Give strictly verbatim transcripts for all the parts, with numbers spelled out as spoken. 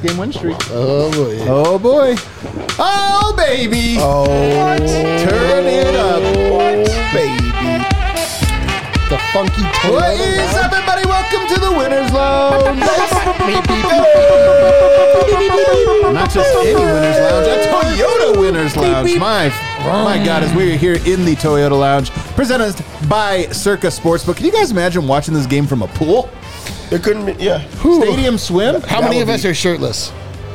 game win streak. Oh, boy. Oh, boy. Oh, baby. Oh. What? Turn it up. What? Baby. The funky Toyota. What is up, everybody? Welcome to the Winners Lounge. Not just any Winners Lounge, a Toyota Winners Lounge. My, my God, as we are here in the Toyota Lounge, presented by Circa Sportsbook. Can you guys imagine watching this game from a pool? It couldn't be, yeah. Stadium swim? How many of us are shirtless?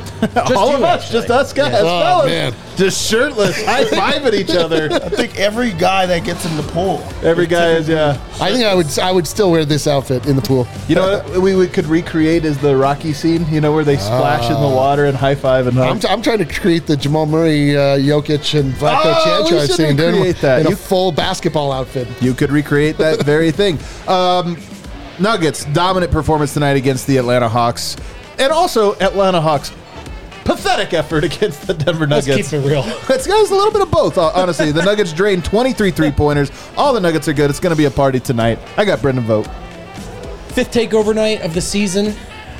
All of us, just us guys, Oh, fellas. man. Just shirtless, high-fiving each other. I think every guy that gets in the pool. Every guy is, yeah. I think I would I would still wear this outfit in the pool. You know what we, we could recreate is the Rocky scene, you know, where they splash in the water and high-five and hug. I'm, t- I'm trying to create the Jamal Murray, uh, Jokic, and Vlatko Oh, we Čančar should scene dude, recreate that. in You- a full basketball outfit. You could recreate that very thing. Um, Nuggets, dominant performance tonight against the Atlanta Hawks. And also, Atlanta Hawks, pathetic effort against the Denver Let's Nuggets. keep it real. It's guys a little bit of both, honestly. The Nuggets drained twenty-three three-pointers. All the Nuggets are good. It's going to be a party tonight. I got Brendan vote. Fifth takeover night of the season.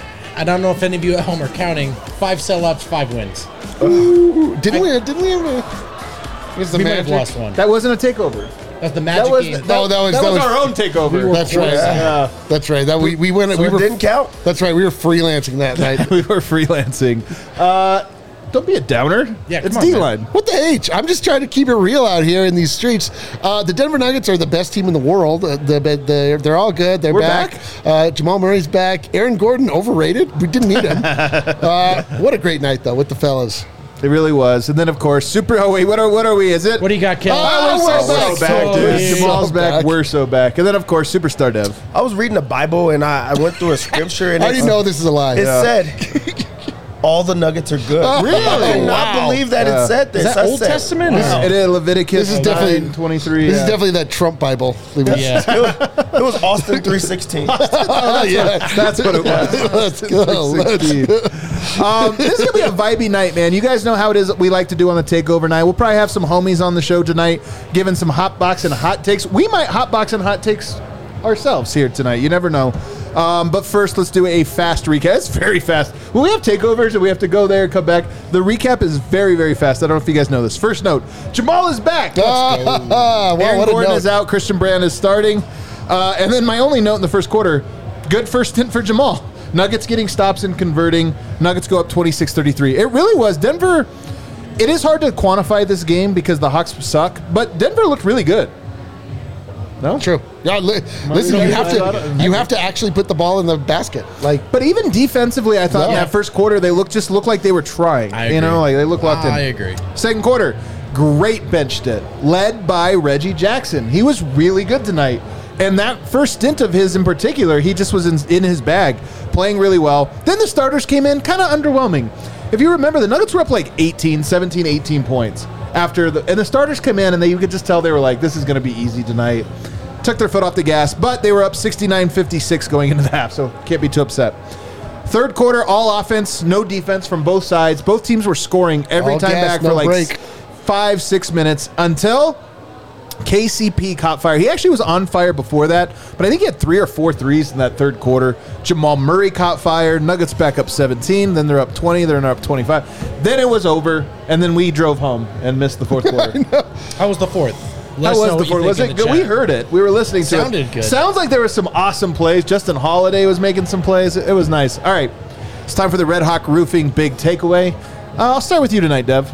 I don't know if any of you at home are counting. Five sellouts, five wins. Ooh, didn't we? Didn't we have a? Was the We might have Magic? lost one. That wasn't a takeover. That's the Magic That was, game. that, Oh, that was- that that was was- our own takeover. That's right. Yeah. That's right. That we we went. So we it were didn't count? That's right. We were freelancing that night. We were freelancing. Uh, don't be a downer. Yeah, it's come on, D-line. What the H? I'm just trying to keep it real out here in these streets. Uh, the Denver Nuggets are the best team in the world. Uh, the, the, they're, they're all good. They're We're back. back? Uh, Jamal Murray's back. Aaron Gordon, overrated. We didn't need him. uh, what a great night, though, with the fellas. It really was. And then, of course, super. Oh, wait, what are, what are we? Is it? What do you got, Kelly? Oh, we're we're so so back, back. dude. So Jamal's back. back. We're so back. And then, of course, Superstar Dev. I was reading the Bible and I, I went through a scripture and I it, already know this is a lie. it Yeah. said all the Nuggets are good. Really? I did not Wow. believe that Yeah. it said this. Is that I Old said, Testament? wow. It is Leviticus This is definitely- nine twenty-three. This yeah. is definitely that Trump Bible. Yeah. It was Austin three sixteen. Oh, yeah. That's what it was. Let's go. Let's sixteen. Um, this is going to be a vibey night, man. You guys know how it is that we like to do on the Takeover night. We'll probably have some homies on the show tonight giving some hot box and hot takes. We might hot box and hot takes ourselves here tonight. You never know. Um, but first, let's do a fast recap. It's very fast. When we have takeovers and we have to go there and come back, the recap is very, very fast. I don't know if you guys know this. First note, Jamal is back. Ah, well, Aaron what a Gordon note. is out. Christian Brand is starting. Uh, and then my only note in the first quarter, good first hint for Jamal. Nuggets getting stops and converting. Nuggets go up twenty-six thirty-three. It really was. Denver, it is hard to quantify this game because the Hawks suck, but Denver looked really good. No? True. Yeah, li- listen, you have to you have to actually put the ball in the basket. Like, But even defensively, I thought in Yeah. that first quarter, they looked just looked like they were trying. I You know, agree. like they looked locked in. I agree. Second quarter, great bench hit, led by Reggie Jackson. He was really good tonight. And that first stint of his in particular, he just was in, in his bag, playing really well. Then the starters came in kind of underwhelming. If you remember, the Nuggets were up like eighteen, seventeen, eighteen points after the, and the starters came in and they, you could just tell they were like, this is going to be easy tonight. Took their foot off the gas, but they were up sixty-nine fifty-six going into the half, so can't be too upset. Third quarter, all offense, no defense from both sides. Both teams were scoring every All time gas, back for no like break. s- five, six minutes until K C P caught fire. He actually was on fire before that, but I think he had three or four threes in that third quarter. Jamal Murray caught fire. Nuggets back up seventeen. Then they're up twenty. They're up twenty-five. Then it was over, and then we drove home and missed the fourth quarter. How was the fourth? Let How us know was the what you fourth? think Was in it the good? chat. We heard it. We were listening to it. Sounded good. Sounds like there were some awesome plays. Justin Holiday was making some plays. It was nice. All right. It's time for the Red Hawk Roofing Big Takeaway. Uh, I'll start with you tonight, Dev.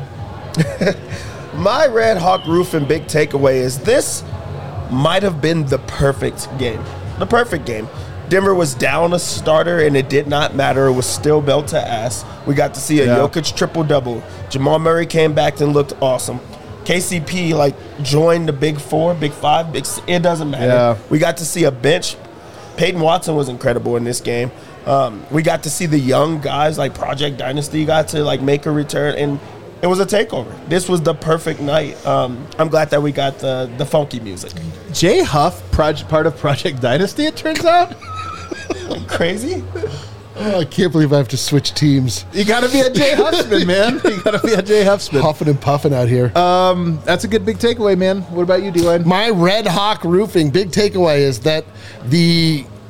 My Red Hawk Roofing big takeaway is this might have been the perfect game. The perfect game. Denver was down a starter, and it did not matter. It was still belt to ass. We got to see a Yeah. Jokic triple-double. Jamal Murray came back and looked awesome. K C P, like, joined the big four, big five, big s- it doesn't matter. Yeah. We got to see a bench. Peyton Watson was incredible in this game. Um, we got to see the young guys, like Project Dynasty, got to, like, make a return, and it was a takeover. This was the perfect night. Um, I'm glad that we got the, the funky music. Jay Huff, project, part of Project Dynasty, it turns out. Crazy? oh, I can't believe I have to switch teams. You got to be a Jay Huffsman, man. You got to be a Jay Huffsman. Huffing and puffing out here. Um, that's a good big takeaway, man. What about you, D-Line? My Red Hawk Roofing big takeaway is that the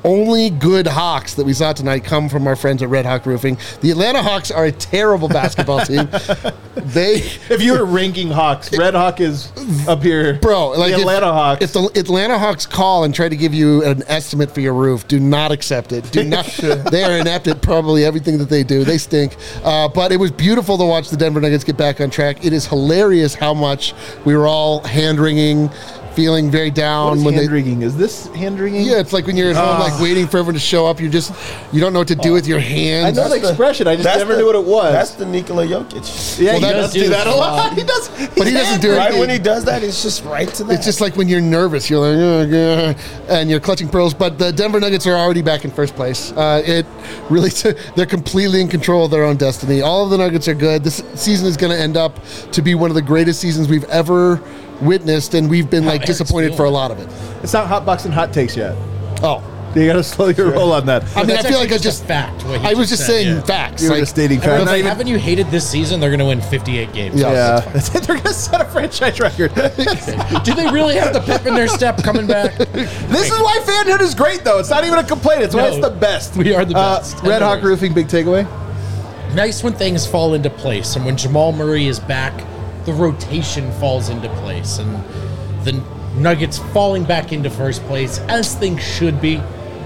only good Hawks that we saw tonight come from our friends at Red Hawk Roofing. The Atlanta Hawks are a terrible basketball team. They, If you were ranking Hawks, Red Hawk is up here. bro, like the if- Atlanta Hawks. If the Atlanta Hawks call and try to give you an estimate for your roof, do not accept it. Do not. They are inept at probably everything that they do. They stink. Uh, but it was beautiful to watch the Denver Nuggets get back on track. It is hilarious how much we were all hand wringing, feeling very What down is when hand they. wringing? Is this hand wringing? Yeah, it's like when you're at home, like waiting for everyone to show up. You just you don't know what to do with your I hands. know the expression. I just That's never the- knew what it was. That's the Nikola Jokic. yeah, Well, he that does does do do that a this a lot. lot. He does. But he doesn't do it. Right when he does that, it's just right to that. It's just like when you're nervous, you're like, "Ugh, ugh," and you're clutching pearls. But the Denver Nuggets are already back in first place. Uh, it really, they're completely in control of their own destiny. All of the Nuggets are good. This season is going to end up to be one of the greatest seasons we've ever witnessed, and we've been like Eric's disappointed for a feeling. lot of it. It's not hot box and hot takes yet. Oh, You got to slow your roll on that. I mean, That's I feel like actually I just just a fact. what he I was just said, saying yeah. facts. You were Like, just stating Everyone's facts. Not like, even- haven't you hated this season? They're going to win fifty-eight games. Yeah. Yeah, they're gonna set a franchise record. Do they really have the pep in their step coming back? This is why fanhood is great, though. It's not even a complaint. It's why No, it's the best. we are the Uh, best. Red Hawk Roofing, big takeaway. Nice when things fall into place, and when Jamal Murray is back, the rotation falls into place, and the Nuggets falling back into first place as things should be.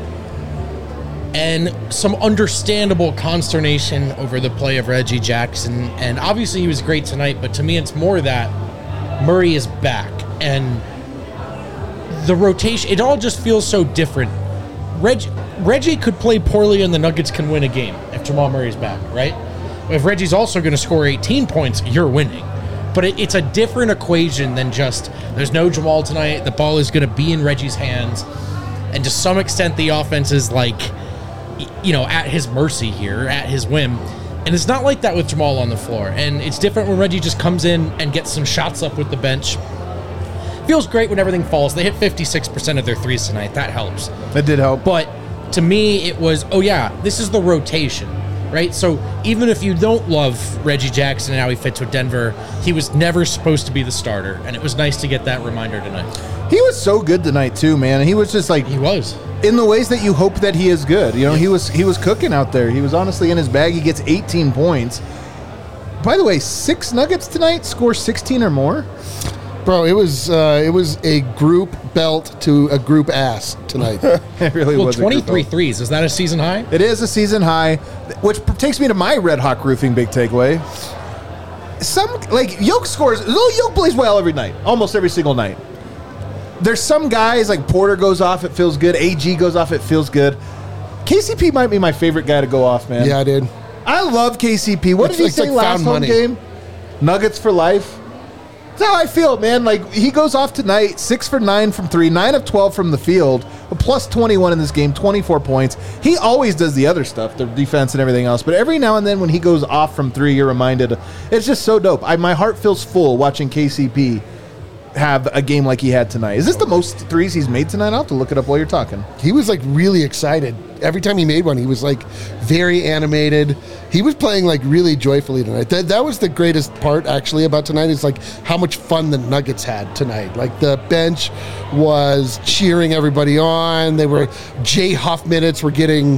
And some understandable consternation over the play of Reggie Jackson. And obviously he was great tonight, but to me it's more that Murray is back. And the rotation, it all just feels so different. Reg, Reggie could play poorly and the Nuggets can win a game if Jamal Murray's back, right? If Reggie's also going to score eighteen points, you're winning. But it, it's a different equation than just, there's no Jamal tonight, the ball is going to be in Reggie's hands. And to some extent, the offense is like, you know, at his mercy here, at his whim. And it's not like that with Jamal on the floor. And it's different when Reggie just comes in and gets some shots up with the bench. Feels great when everything falls. They hit fifty-six percent of their threes tonight. That helps. That did help. But to me, it was, oh yeah, this is the rotation, right? So even if you don't love Reggie Jackson and how he fits with Denver, he was never supposed to be the starter. And it was nice to get that reminder tonight. He was so good tonight too, man. He was just like He was. in the ways that you hope that he is good. You know, he was he was cooking out there. He was honestly in his bag. He gets eighteen points. By the way, six Nuggets tonight score sixteen or more. bro, it was uh, it was a group belt to a group ass tonight. It really Well, was. a group twenty-three belt. threes. Is that a season high? It is a season high, which takes me to my Red Hawk Roofing big takeaway. Some like Yoke scores. Little Yoke plays well every night, almost every single night. There's some guys like Porter goes off, it feels good. A G goes off, it feels good. K C P might be my favorite guy to go off, man. Yeah, dude. I love K C P. What It's- did he it's say like last found home money. game? Nuggets for life. That's how I feel, man. Like he goes off tonight, six for nine from three, nine of twelve from the field, a plus twenty-one in this game, twenty-four points. He always does the other stuff, the defense and everything else. But every now and then when he goes off from three, you're reminded. It's just so dope. I, my heart feels full watching K C P have a game like he had tonight. Is this the most threes he's made tonight? I'll have to look it up while you're talking. He was like really excited. Every time he made one, he was like very animated. He was playing like really joyfully tonight. That that was the greatest part actually about tonight is like how much fun the Nuggets had tonight. Like the bench was cheering everybody on. They were Jay Huff minutes were getting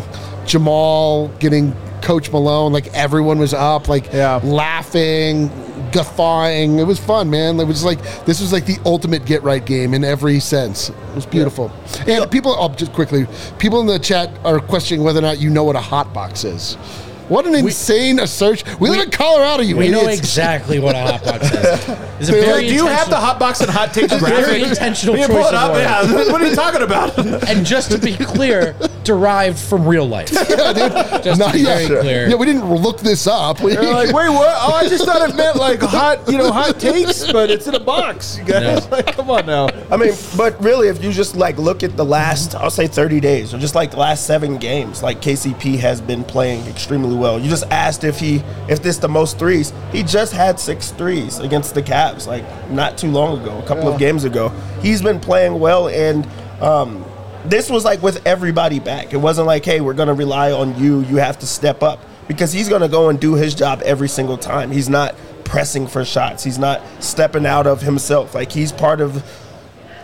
Jamal, getting Coach Malone. Like everyone was up, like Yeah. laughing, guffawing. It was fun, man. It was like this was like the ultimate get right game in every sense. It was beautiful. And people, oh, just quickly, people in the chat are questioning whether or not you know what a hot box is. What an insane assertion! We, live in Colorado, you We know idiots. exactly what a hot box is. It's a They're very like, do you have the intentional- hot box and hot takes very graphic? intentional Can you choice pull it of up? words. Yeah. What are you talking about? And just to be clear, derived from real life. Yeah, dude. Just Not to be yet. very clear. Yeah, we didn't look this up. We- They're like, wait, what? Oh, I just thought it meant like hot, you know, hot takes, but it's in a box. You guys, No. like, come on now. I mean, but really, if you just like look at the last, I'll say thirty days, or just like the last seven games, like K C P has been playing extremely well. You just asked if he, if this the most threes. He just had six threes against the Cavs, like not too long ago, a couple of games ago. He's been playing well, and um, this was like with everybody back. It wasn't like, hey, we're gonna rely on you. You have to step up because he's gonna go and do his job every single time. He's not pressing for shots. He's not stepping out of himself. Like he's part of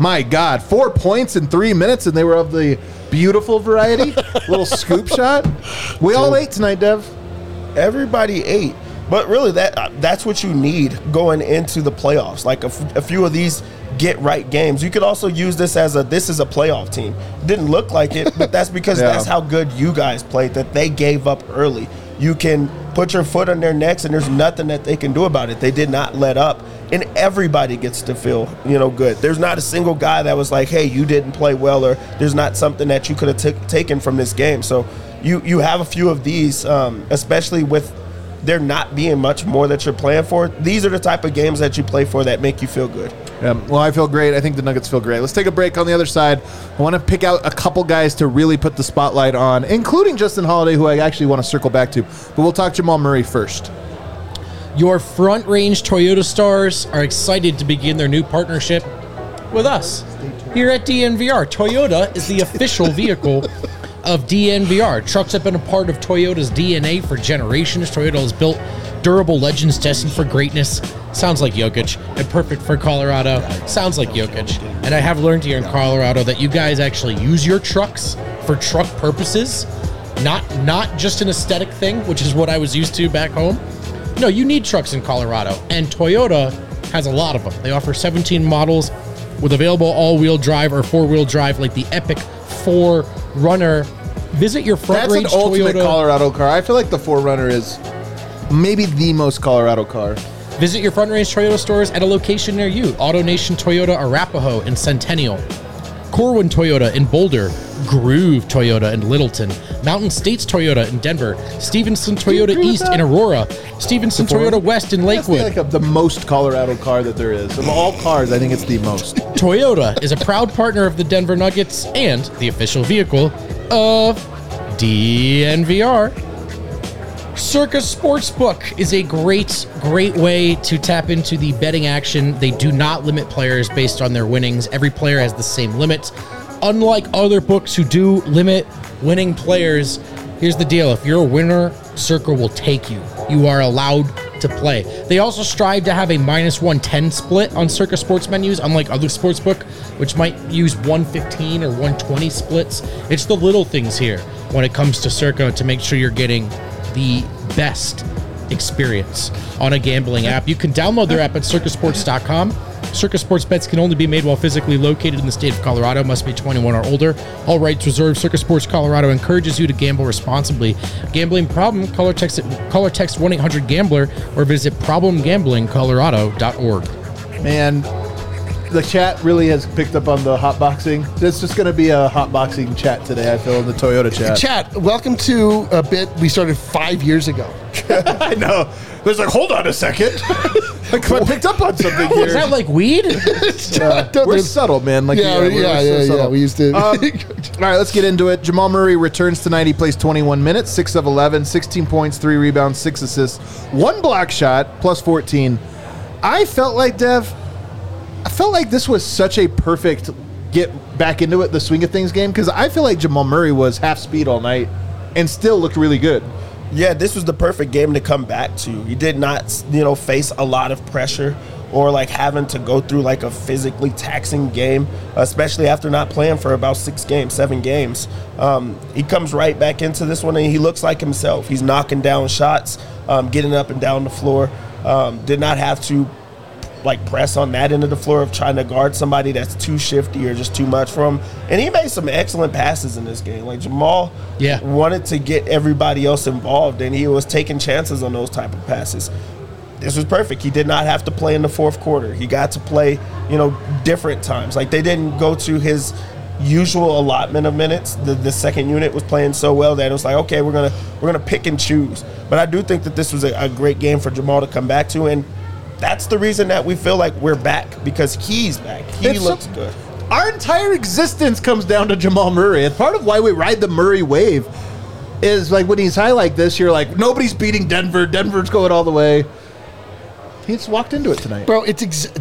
My God, four points in three minutes, and they were of the beautiful variety. Little scoop shot. We all ate tonight, Dev. Everybody ate. But really, that that's what you need going into the playoffs. Like a, f- a few of these get-right games. You could also use this as a, this is a playoff team. Didn't look like it, but that's because Yeah. that's how good you guys played, that they gave up early. You can put your foot on their necks, and there's nothing that they can do about it. They did not let up, and everybody gets to feel, you know, good. There's not a single guy that was like, hey, you didn't play well, or there's not something that you could have t- taken from this game. So you, you have a few of these, um, especially with there not being much more that you're playing for. These are the type of games that you play for that make you feel good. Yeah, well, I feel great. I think the Nuggets feel great. Let's take a break. On the other side, I want to pick out a couple guys to really put the spotlight on, including Justin Holiday, who I actually want to circle back to. But we'll talk Jamal Murray first. Your Front Range Toyota stars are excited to begin their new partnership with us. Here at D N V R, Toyota is the official vehicle of D N V R. Trucks have been a part of Toyota's D N A for generations. Toyota has built durable legends destined for greatness. Sounds like Jokic, and perfect for Colorado. Sounds like Jokic. And I have learned here in Colorado that you guys actually use your trucks for truck purposes, not not just an aesthetic thing, which is what I was used to back home. No, you need trucks in Colorado, and Toyota has a lot of them. They offer seventeen models with available all-wheel drive or four-wheel drive, like the Epic four runner. Visit your Front That's an Range ultimate Toyota. Colorado car. I feel like the four runner is maybe the most Colorado car. Visit your Front Range Toyota stores at a location near you. AutoNation Toyota Arapahoe in Centennial, Corwin Toyota in Boulder, Groove Toyota in Littleton, Mountain States Toyota in Denver, Stevenson Toyota agree with East that? in Aurora, Stevenson Toyota West in That's Lakewood. like a, the most Colorado car that there is. Of all cars, I think it's the most. Toyota is a proud partner of the Denver Nuggets and the official vehicle of D N V R. Circus Sportsbook is a great, great way to tap into the betting action. They do not limit players based on their winnings. Every player has the same limits. Unlike other books who do limit winning players, here's the deal. If you're a winner, Circa will take you. You are allowed to play. They also strive to have a minus one ten split on Circa sports menus, unlike other sportsbook, which might use one fifteen or one twenty splits. It's the little things here when it comes to Circa to make sure you're getting the best experience on a gambling app. You can download their app at circa sports dot com. Circa Sports bets can only be made while physically located in the state of Colorado. Must be twenty-one or older. All rights reserved. Circa Sports Colorado encourages you to gamble responsibly. Gambling problem? Call or text, call or text one eight hundred gambler or visit problem gambling colorado dot org. Man, the chat really has picked up on the hotboxing. It's just going to be a hotboxing chat today, I feel, in the Toyota chat. Chat, welcome to a bit we started five years ago. I know. There's like, hold on a second. Like, I picked up on something here. Is that like weed? Uh, we're subtle, man. Like, Yeah, we're- yeah, we're yeah, so yeah, subtle. we used to- Um, all right, let's get into it. Jamal Murray returns tonight. He plays twenty-one minutes, six of eleven, sixteen points, three rebounds, six assists, one block shot, plus fourteen. I felt like, Dev, I felt like this was such a perfect get back into it, the swing of things game, because I feel like Jamal Murray was half speed all night and still looked really good. Yeah, this was the perfect game to come back to. He did not, you know, face a lot of pressure or like having to go through like a physically taxing game, especially after not playing for about six games, seven games. Um, he comes right back into this one and he looks like himself. He's knocking down shots, um, getting up and down the floor. Um, did not have to like press on that end of the floor of trying to guard somebody that's too shifty or just too much for him. And he made some excellent passes in this game. Like Jamal Yeah. wanted to get everybody else involved, and he was taking chances on those type of passes. This was perfect. He did not have to play in the fourth quarter. He got to play, you know, different times. Like they didn't go to his usual allotment of minutes. The the second unit was playing so well that it was like, okay, we're gonna we're gonna pick and choose. But I do think that this was a, a great game for Jamal to come back to, and that's the reason that we feel like we're back, because he's back. He It's looks so- good. Our entire existence comes down to Jamal Murray. And part of why we ride the Murray wave is like when he's high like this, you're like, nobody's beating Denver. Denver's going all the way. He just walked into it tonight. Bro, it's ex-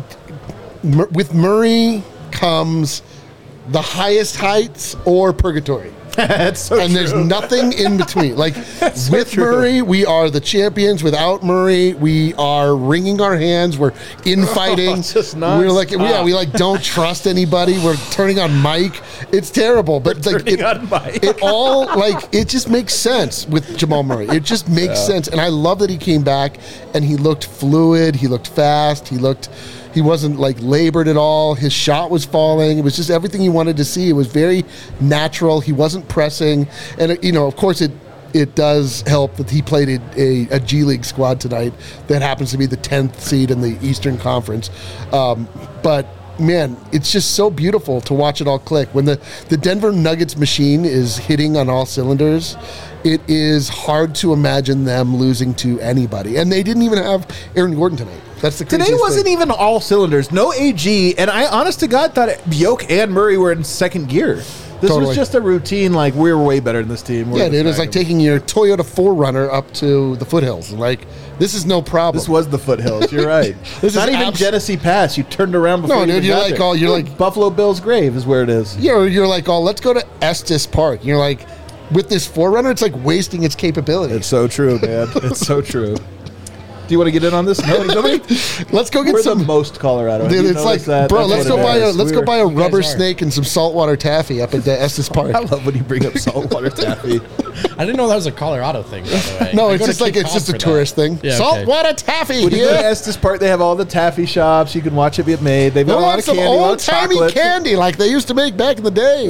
Mur- with Murray comes the highest heights or purgatory. That's so and there's true. nothing in between. Like so with true. Murray, we are the champions. Without Murray, we are wringing our hands. We're infighting. it's just We're like, nonstop. yeah, we like don't trust anybody. We're turning on Mike. It's terrible, but like turning it, on Mike. it all like it just makes sense with Jamal Murray. It just makes sense, and I love that he came back and he looked fluid. He looked fast. He looked. He wasn't like labored at all. His shot was falling. It was just everything you wanted to see. It was very natural. He wasn't pressing, and you know, of course, it it does help that he played a, a, a G League squad tonight that happens to be the tenth seed in the Eastern Conference. Um, but man, it's just so beautiful to watch it all click when the the Denver Nuggets machine is hitting on all cylinders. It is hard to imagine them losing to anybody, and they didn't even have Aaron Gordon tonight. That's the Today craziest wasn't thing. even all cylinders. No A G, and I, honest to God, thought Bjork and Murray were in second gear. This Totally. was just a routine, like, we're way better than this team. We're Yeah, gonna dude, it was smack like them. taking your Toyota four runner up to the foothills. Like, this is no problem. This was the foothills. You're right. This Not is even abs- Genesee Pass. You turned around before No, you dude, even you're got like there. all- you're like- Buffalo Bill's grave is where it is. You're, you're like, oh, let's go to Estes Park. You're like, with this four runner, it's like wasting its capabilities. It's so true, man. It's so true. Do you want to get in on this? No, nobody? Let's go get We're some. the most Colorado. Dude, You it's like, notice that? bro, That's let's what go it buy a is. let's We go were- buy a guys rubber are. snake and some saltwater taffy up at the Estes Park. I love when you bring up saltwater taffy. I didn't know that was a Colorado thing, by the way. No, I it's go to just like Cape it's Cod just a for that. tourist thing. Yeah, okay. Saltwater taffy. When you go to Yeah. Estes Park, they have all the taffy shops. You can watch it get made. They've They got a lot want of some candy, a lot of old timey chocolate. candy like they used to make back in the day.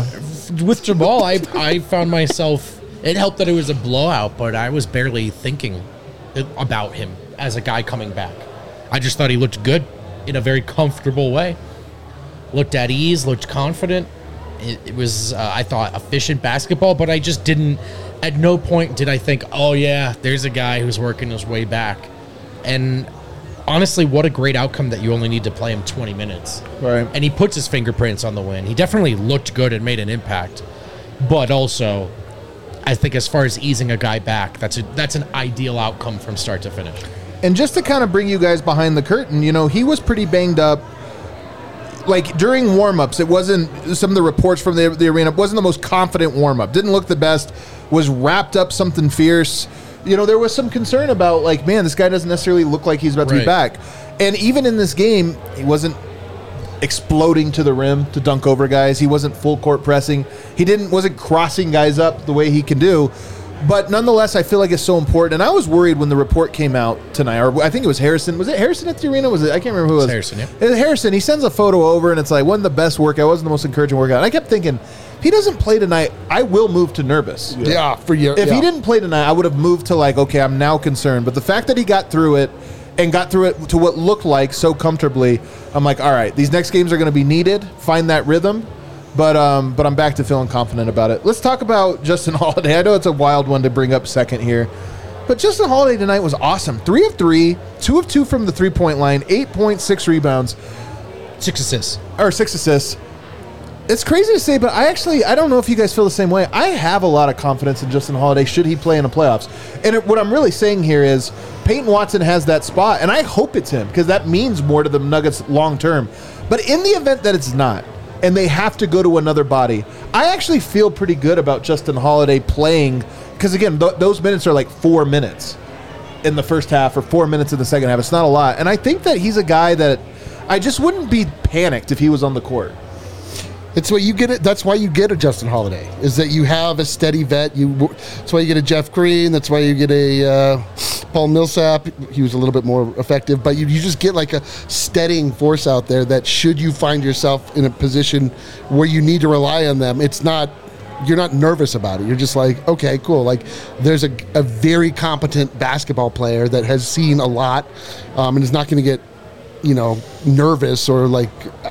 With Jamal, I, I found myself, it helped that it was a blowout, but I was barely thinking about him as a guy coming back. I just thought he looked good in a very comfortable way. Looked at ease, looked confident. It, it was, uh, I thought, efficient basketball, but I just didn't, at no point did I think, oh yeah, there's a guy who's working his way back. And honestly, what a great outcome that you only need to play him twenty minutes. Right. And he puts his fingerprints on the win. He definitely looked good and made an impact. But also, I think as far as easing a guy back, that's a, that's an ideal outcome from start to finish. And just to kind of bring you guys behind the curtain, you know, he was pretty banged up. Like during warm-ups, it wasn't, some of the reports from the, the arena, wasn't the most confident warm-up. Didn't look the best, was wrapped up something fierce. You know, there was some concern about, like, man, this guy doesn't necessarily look like he's about to be Right. back. And even in this game, he wasn't exploding to the rim to dunk over guys. He wasn't full court pressing. He didn't wasn't crossing guys up the way he can do. But nonetheless, I feel like it's so important. And I was worried when the report came out tonight, or I think it was Harrison. Was it Harrison at the arena? Was it? I can't remember who it was. Harrison, yeah. It was Harrison. He sends a photo over, and it's like, wasn't the best workout, wasn't the most encouraging workout. And I kept thinking, if he doesn't play tonight, I will move to nervous. Yeah, for you. If yeah. he didn't play tonight, I would have moved to like, okay, I'm now concerned. But the fact that he got through it and got through it to what looked like so comfortably, I'm like, all right, these next games are going to be needed. Find that rhythm. But um, but I'm back to feeling confident about it. Let's talk about Justin Holiday. I know it's a wild one to bring up second here. But Justin Holiday tonight was awesome. Three of three, two of two from the three-point line, eight point six rebounds, Six assists. or six assists. It's crazy to say, but I actually, I don't know if you guys feel the same way. I have a lot of confidence in Justin Holiday should he play in the playoffs. And it, what I'm really saying here is Peyton Watson has that spot, and I hope it's him because that means more to the Nuggets long term. But in the event that it's not, and they have to go to another body, I actually feel pretty good about Justin Holiday playing because, again, th- those minutes are like four minutes in the first half or four minutes in the second half. It's not a lot. And I think that he's a guy that I just wouldn't be panicked if he was on the court. It's what you get it. That's why you get a Justin Holiday. Is that you have a steady vet. You. That's why you get a Jeff Green. That's why you get a uh, Paul Millsap. He was a little bit more effective, but you, you just get like a steadying force out there. That should you find yourself in a position where you need to rely on them, it's not. You're not nervous about it. You're just like, okay, cool. Like, there's a, a very competent basketball player that has seen a lot, um, and is not going to get, you know, nervous or like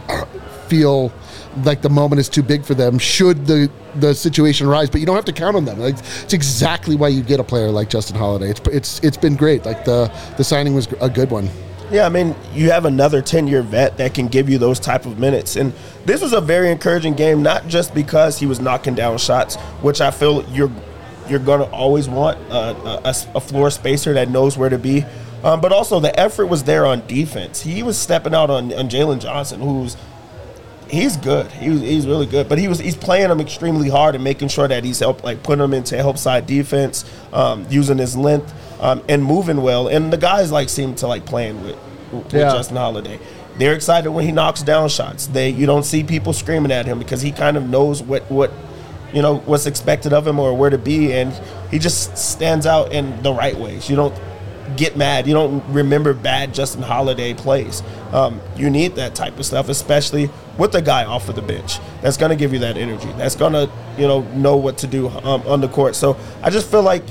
feel like the moment is too big for them should the the situation arise. But you don't have to count on them. Like, it's exactly why you get a player like Justin Holiday. It's it's it's been great. Like the the signing was a good one. Yeah, I mean, you have another ten-year vet that can give you those type of minutes. And this was a very encouraging game, not just because he was knocking down shots, which I feel you're you're going to always want uh, a, a floor spacer that knows where to be, um, but also the effort was there on defense. He was stepping out on, on Jalen Johnson, who's – he's good. He, he's really good. But he was he's playing him extremely hard and making sure that he's help like putting him into help side defense, um, using his length um, and moving well. And the guys like seem to like playing with, with Yeah. Justin Holiday. They're excited when he knocks down shots. They you don't see people screaming at him because he kind of knows what what you know what's expected of him or where to be, and he just stands out in the right ways. You don't get mad. You don't remember bad Justin Holiday plays. Um, you need that type of stuff, especially with the guy off of the bench. That's going to give you that energy. That's going to, you know, know what to do um, on the court. So I just feel like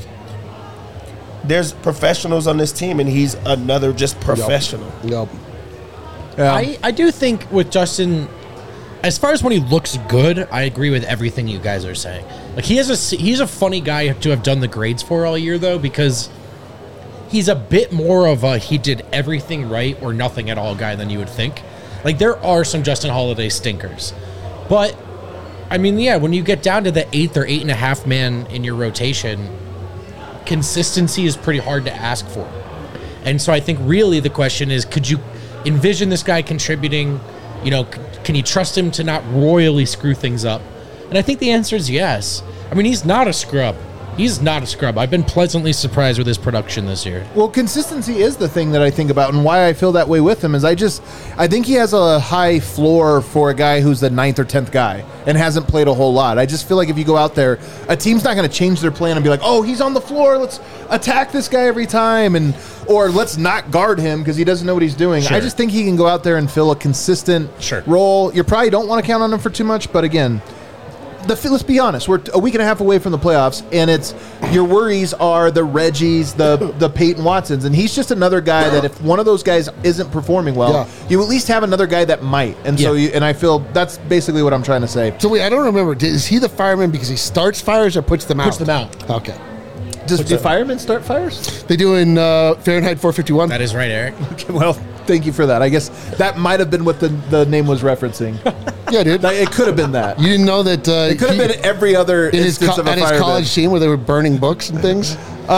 there's professionals on this team, and he's another just professional. Yep. Yeah. I, I do think with Justin, as far as when he looks good, I agree with everything you guys are saying. Like he has a he's a funny guy to have done the grades for all year though, because he's a bit more of a he did everything right or nothing at all guy than you would think. Like there are some Justin Holiday stinkers, but I mean, yeah, when you get down to the eighth or eight and a half man in your rotation, consistency is pretty hard to ask for. And so I think really the question is, could you envision this guy contributing? You know, c- can you trust him to not royally screw things up? And I think the answer is yes. I mean, he's not a scrub. He's not a scrub. I've been pleasantly surprised with his production this year. Well, consistency is the thing that I think about, and why I feel that way with him is I just I think he has a high floor for a guy who's the ninth or tenth guy and hasn't played a whole lot. I just feel like if you go out there, a team's not going to change their plan and be like, oh, he's on the floor, let's attack this guy every time, and or let's not guard him because he doesn't know what he's doing. Sure. I just think he can go out there and fill a consistent Sure. role. You probably don't want to count on him for too much, but again, the, let's be honest, we're a week and a half away from the playoffs, and it's your worries are the Reggies, the the Peyton Watsons, and he's just another guy that if one of those guys isn't performing well, Yeah. you at least have another guy that might. And so, Yeah. you, and I feel that's basically what I'm trying to say. So wait, I don't remember. Did- Is he the fireman because he starts fires or puts them out? Puts them out. Okay. Does do firemen start fires? They do in uh, Fahrenheit four fifty-one. That is right, Eric. Okay, well, thank you for that. I guess that might have been what the, the name was referencing. Yeah, dude. Like, it could have been that. You didn't know that? Uh, It could have he- been every other in his, instance co- of a at his fireman. college team where they were burning books and things.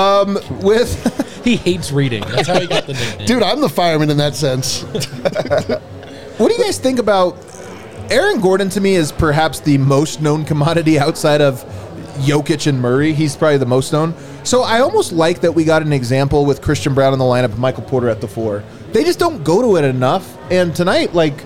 With He hates reading. That's how he got the nickname. Dude, I'm the fireman in that sense. what do you guys think about Aaron Gordon? To me, is perhaps the most known commodity outside of Jokic and Murray. He's probably the most known. So I almost like that we got an example with Christian Brown in the lineup and Michael Porter at the four. They just don't go to it enough. And tonight, like,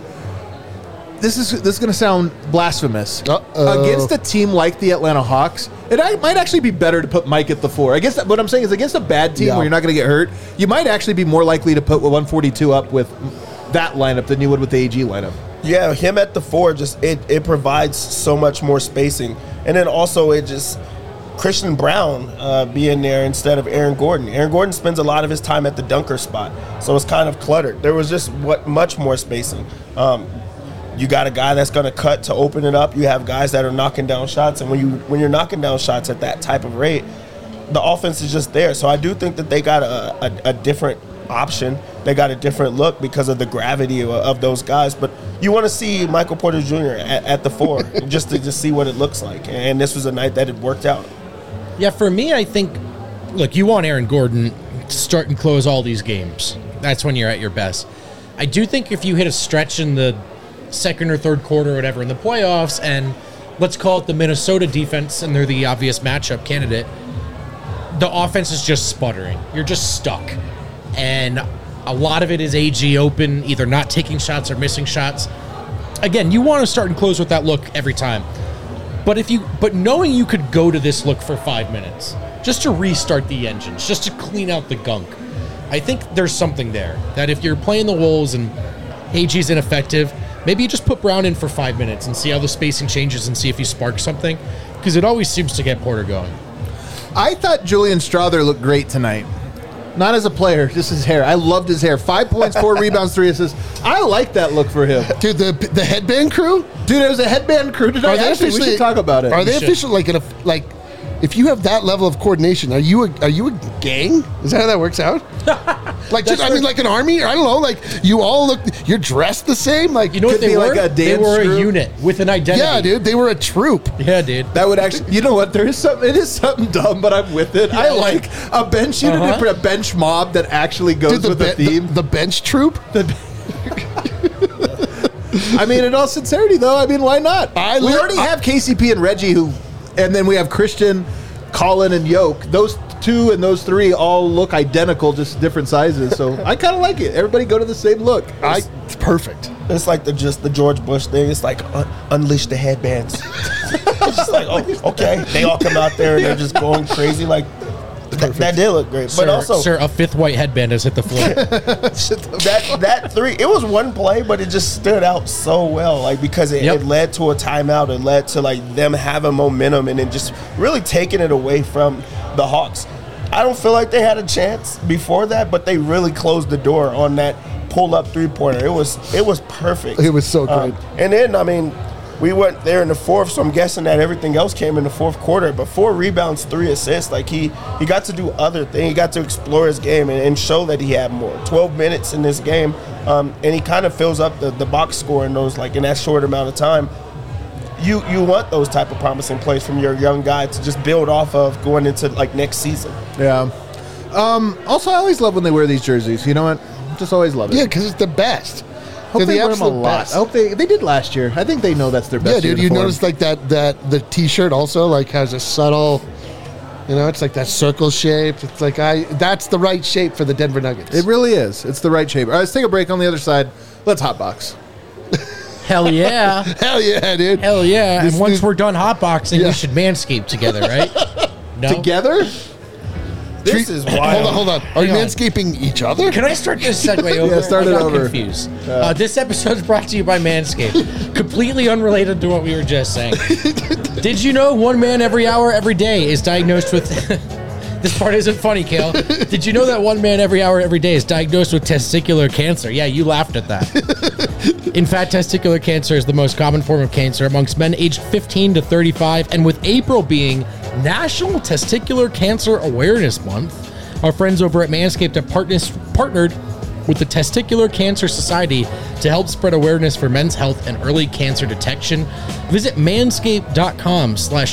this is this is going to sound blasphemous. Uh-oh. Against a team like the Atlanta Hawks, it I- might actually be better to put Mike at the four. I guess that, what I'm saying is against a bad team Yeah. where you're not going to get hurt, you might actually be more likely to put one forty-two up with that lineup than you would with the A G lineup. Yeah, him at the four just it, it provides so much more spacing, and then also it just Christian Brown uh, being there instead of Aaron Gordon. Aaron Gordon spends a lot of his time at the dunker spot, so it's kind of cluttered. There was just what much more spacing. Um, you got a guy that's going to cut to open it up. You have guys that are knocking down shots, and when you when you're knocking down shots at that type of rate, the offense is just there. So I do think that they got a, a, a different option. They got a different look because of the gravity of, of those guys. But you want to see Michael Porter Junior at, at the four just to just see what it looks like. And this was a night that it worked out. Yeah, for me, I think, look, you want Aaron Gordon to start and close all these games. That's when you're at your best. I do think if you hit a stretch in the second or third quarter or whatever in the playoffs, and let's call it the Minnesota defense, and they're the obvious matchup candidate, the offense is just sputtering. You're just stuck. And a lot of it is A G open, either not taking shots or missing shots. Again, you want to start and close with that look every time. But if you, but knowing you could go to this look for five minutes, just to restart the engines, just to clean out the gunk, I think there's something there. That if you're playing the Wolves and A G's ineffective, maybe you just put Brown in for five minutes and see how the spacing changes and see if you spark something, because it always seems to get Porter going. I thought Julian Strother looked great tonight. Not as a player, just his hair. I loved his hair. Five points, four rebounds, three assists. I like that look for him. Dude, the the headband crew? Dude, it was a headband crew tonight. Actually, we should talk about it. Are they should. official? Like, in a, like, if you have that level of coordination, are you a, are you a gang? Is that how that works out? Like, just, I where- mean, like an army? I don't know. Like, you all look, you're dressed the same. Like, You know what Could they be were? like a they dance were a group. unit with an identity. yeah, dude, they were a troop. Yeah, dude. That would actually, you know what? There is something. It is something dumb, but I'm with it. I Yeah. like a bench unit, Uh-huh. a bench mob that actually goes Dude, the, with the be- theme. the, the bench troop? I mean, in all sincerity, though, I mean, why not? I we li- already I- have K C P and Reggie, who, and then we have Christian, Colin, and Yoke. Those two and those three all look identical, just different sizes. So I kind of like it. Everybody go to the same look. I, it's perfect. It's like the just the George Bush thing. It's like un- unleash the headbands. It's just like, oh, okay. They all come out there and they're just going crazy. Like th- that did look great, Sir, but also sir, a fifth white headband has hit the floor. that that three. It was one play, but it just stood out so well. Like because it, Yep. it led to a timeout. It led to like them having momentum and then just really taking it away from the Hawks. I don't feel like they had a chance before that, but they really closed the door on that pull-up three-pointer. It was it was perfect. It was so great. Um, and then, I mean, we went there in the fourth, so I'm guessing that everything else came in the fourth quarter. But four rebounds, three assists. Like, he, he got to do other things. He got to explore his game and, and show that he had more. twelve minutes in this game, um, and he kind of fills up the, the box score in those, like, in that short amount of time. You you want those type of promising plays from your young guy to just build off of going into, like, next season. Yeah. Um, also, I always love when they wear these jerseys. You know what? Just always love it. Yeah, because it's the best. Hope They're they the wear them a absolute lot. best. I hope they they did last year. I think they know that's their best. Yeah, dude. You uniform. notice like that that the T-shirt also like has a subtle, you know, it's like that circle shape. It's like I that's the right shape for the Denver Nuggets. It really is. It's the right shape. All right, let's take a break on the other side. Let's hotbox. Hell yeah. Hell yeah, dude. Hell yeah. This and once dude- we're done hotboxing, Yeah. we should manscape together, right? No? Together? This Treat- is Hold wild. on, hold on. Are you Hang on. manscaping each other? Can I start this segue over? Yeah, start I it got over. confused. Uh, this episode is brought to you by Manscaped. Completely unrelated to what we were just saying. Did you know one man every hour, every day is diagnosed with... This part isn't funny, Kale. Did you know that one man every hour, every day is diagnosed with testicular cancer? Yeah, you laughed at that. In fact, testicular cancer is the most common form of cancer amongst men aged fifteen to thirty-five, and with April being National Testicular Cancer Awareness Month, our friends over at Manscaped have partners, partnered with the Testicular Cancer Society to help spread awareness for men's health and early cancer detection. Visit manscaped.com slash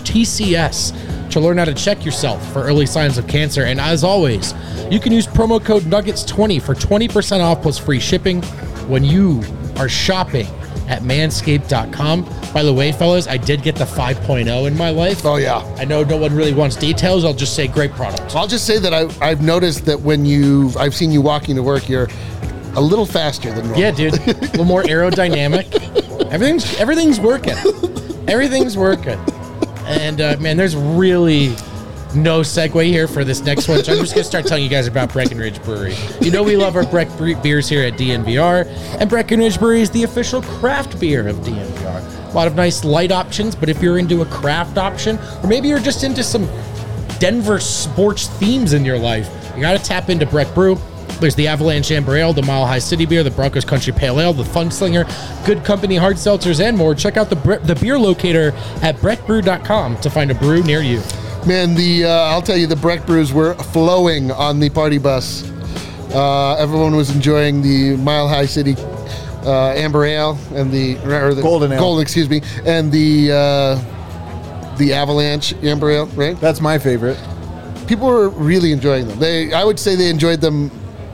TCS to learn how to check yourself for early signs of cancer. And as always, you can use promo code Nuggets twenty for twenty percent off plus free shipping when you are shopping at manscaped dot com. By the way, fellas, I did get the five point oh in my life. Oh yeah. I know no one really wants details. I'll just say great product. I'll just say that I, I've noticed that when you I've seen you walking to work, you're a little faster than normal. Yeah, dude. A little more aerodynamic. Everything's everything's working. Everything's working. And uh, man, there's really no segue here for this next one. So I'm just gonna start telling you guys about Breckenridge Brewery. You know we love our Breck bre- beers here at D N V R, and Breckenridge Brewery is the official craft beer of D N V R. A lot of nice light options, but if you're into a craft option, or maybe you're just into some Denver sports themes in your life, you gotta tap into Breck Brew. There's the Avalanche Amber Ale, the Mile High City Beer, the Broncos Country Pale Ale, the Funslinger, Good Company Hard Seltzers, and more. Check out the bre- the beer locator at breck brew dot com to find a brew near you. Man, the uh, I'll tell you, the Breck brews were flowing on the party bus. Uh, everyone was enjoying the Mile High City uh, Amber Ale and the or the Golden Ale. Golden, excuse me, and the uh, the Avalanche Amber Ale. Right? That's my favorite. People were really enjoying them. They, I would say, they enjoyed them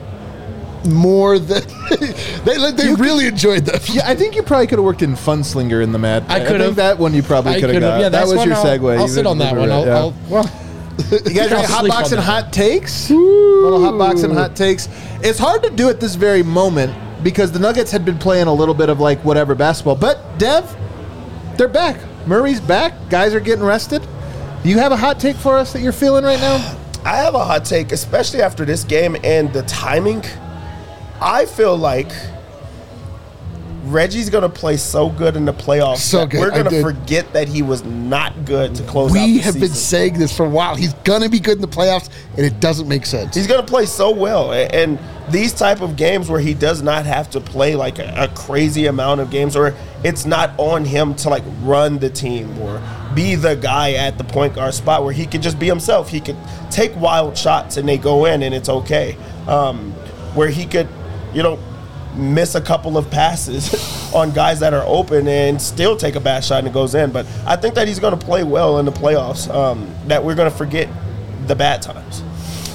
more than they they You really enjoyed them. Yeah, I think you probably could have worked in Funslinger in the Mad. I think could've. that one you probably I could have could've- got. yeah, that that's was one your I'll- segue. I'll You sit on that remember one. it, I'll, yeah. I'll well. You guys I'll ready? Hot sleep box on and that. hot takes. Little hot box and hot takes. It's hard to do at this very moment because the Nuggets had been playing a little bit of like whatever basketball. But Dev, they're back. Murray's back. Guys are getting rested. Do you have a hot take for us that you're feeling right now? I have a hot take, especially after this game and the timing. I feel like Reggie's going to play so good in the playoffs So that good. we're I going to did. forget that he was not good to close out We the have been season. saying this for a while. He's gonna be good in the playoffs, and it doesn't make sense. He's going to play so well. A- And these type of games where he does not have to play like a, a crazy amount of games, or it's not on him to like run the team or be the guy at the point guard spot, where he could just be himself. He could take wild shots and they go in and it's okay. Um, where he could, you know, miss a couple of passes on guys that are open and still take a bad shot and it goes in. But I think that he's going to play well in the playoffs, um, that we're going to forget the bad times.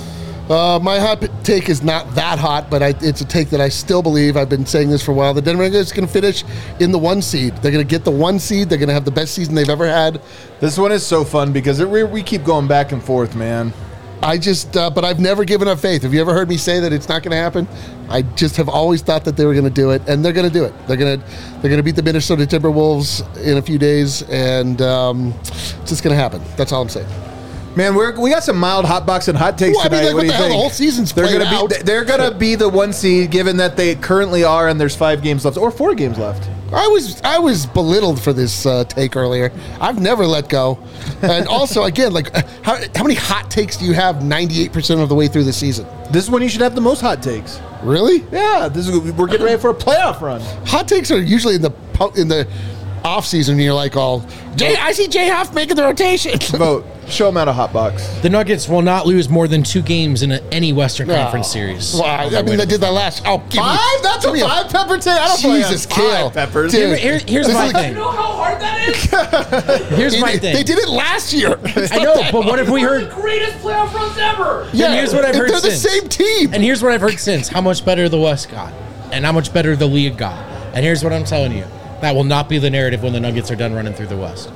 Uh, my hot take is not that hot, but I, it's a take that I still believe. I've been saying this for a while. The Denver Nuggets are going to finish in the one seed. They're going to get the one seed. They're going to have the best season they've ever had. This one is so fun because it, we, we keep going back and forth, man. I just, uh, but I've never given up faith. Have you ever heard me say that it's not going to happen? I just have always thought that they were going to do it, and they're going to do it. They're going to, they're going to beat the Minnesota Timberwolves in a few days, and um, it's just going to happen. That's all I'm saying. Man, we're, we got some mild hot box and hot takes Well, I mean, tonight. like, what what do you the hell? think? The whole season's they're played gonna out. be they're gonna be the one seed, given that they currently are, and there's five games left or four games left. I was I was belittled for this uh, take earlier. I've never let go, and also again, like how, how many hot takes do you have ninety-eight percent of the way through the season? This is when you should have the most hot takes. Really? Yeah, this is we're getting ready for a playoff run. Hot takes are usually in the po- in the off season. And you're like all Jay. I see Jay Huff making the rotation. Vote. Show them out a hot box. The Nuggets will not lose more than two games in a, any Western Conference series. Well, I, I mean, they did that last. Oh, give Five? Me, That's give a me five pepper take. I don't Jesus, play on Kale. five peppers. Dude. Here- here's This my is- thing. You know how hard that is? Here's my They, thing. they did it last year. I know, but what if we One of heard? the greatest playoff runs ever. Yeah, here's what I've heard They're the since. same team. And here's what I've heard since: how much better the West got, and how much better the league got. And here's what I'm telling you: that will not be the narrative when the Nuggets are done running through the West.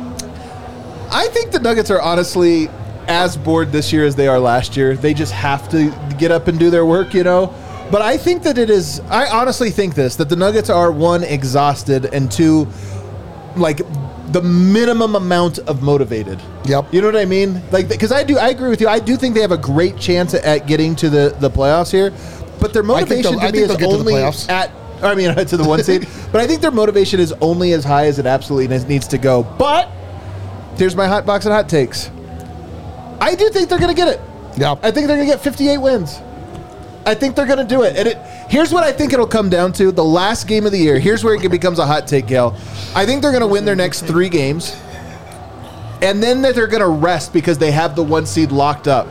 I think the Nuggets are honestly as bored this year as they are last year. They just have to get up and do their work, you know? But I think that it is, I honestly think this, that the Nuggets are, one, exhausted, and two, like the minimum amount of motivated. Yep. You know what I mean? Like, because I do, I agree with you. I do think they have a great chance at getting to the, the playoffs here, but their I think motivation they'll- to I me think is they'll get to the only playoffs. at, I mean, to the one seed, but I think their motivation is only as high as it absolutely needs to go. But here's my hot box and hot takes. I do think they're going to get it. Yeah. I think they're going to get fifty-eight wins. I think they're going to do it. And it, here's what I think it'll come down to. The last game of the year, here's where it becomes a hot take, Gail. I think they're going to win their next three games. And then that they're going to rest because they have the one seed locked up.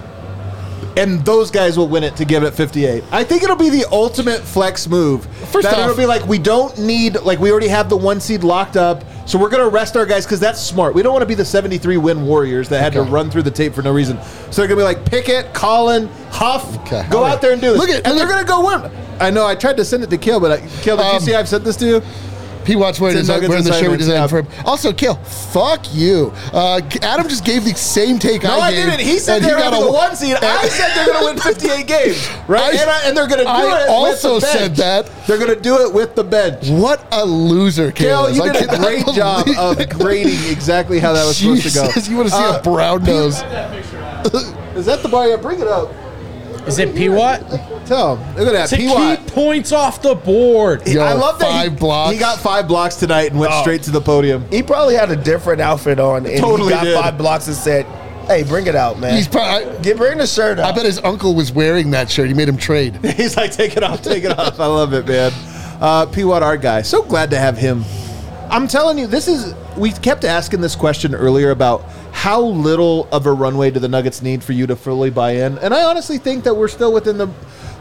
And those guys will win it to give it fifty-eight. I think it'll be the ultimate flex move. First that off- it'll be like, we don't need, like we already have the one seed locked up, so we're going to rest our guys because that's smart. We don't want to be the seventy-three win Warriors that had Okay. to run through the tape for no reason. So they're going to be like Pickett, Colin, Huff, Okay. go out there and do this. Look at- and look they're at- going to go win. I know, I tried to send it to Kill, but I, Kill, did you Um, see I've sent this to you? P. Watts wearing, It's his, a Nuggets wearing the shirt we assignment, designed for him. Also, Kill, fuck you. Uh, Adam just gave the same take No, I I gave. didn't. He said and they're got having a- the one seed. I and- said they're going to win fifty-eight games, right? I- and, I, and they're going to do I it also with the bench. said that. They're going to do it with the bench. What a loser, Gail, Kale. you I did a cannot great job believe- of grading exactly how that was supposed to go. Jesus, you want to see Uh, a brown nose. That picture out. Is that the bar? Yeah, bring it up. Is it P. Watt? Tell him. Look at that. To P. Watt. keep points off the board. Yo, I love that five he, blocks. he got five blocks tonight and went Oh. straight to the podium. He probably had a different outfit on, and Totally he got did. five blocks and said, "Hey, bring it out, man. He's probably, Get bring the shirt I out." bet his uncle was wearing that shirt. He made him trade. He's like, take it off, take it off. I love it, man. Uh, P. Watt, our guy. So glad to have him. I'm telling you, this is. We kept asking this question earlier about how little of a runway do the Nuggets need for you to fully buy in, and I honestly think that we're still within the.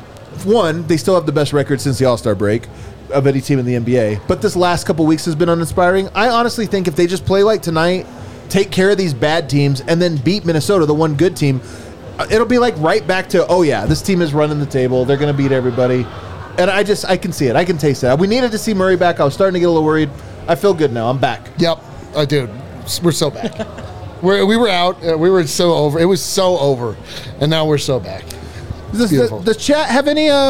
One, they still have the best record since the All-Star break of any team in the N B A. But this last couple weeks has been uninspiring. I honestly think if they just play like tonight, take care of these bad teams, and then beat Minnesota, the one good team, uh, it'll be like right back to, oh yeah, this team is running the table. They're going to beat everybody. And I just, I can see it. I can taste that. We needed to see Murray back. I was starting to get a little worried. I feel good now. I'm back. Yep. Uh, dude, we're so back. we're, we were out. Uh, we were so over. It was so over. And now we're so back. Does, Beautiful. does chat have any, uh,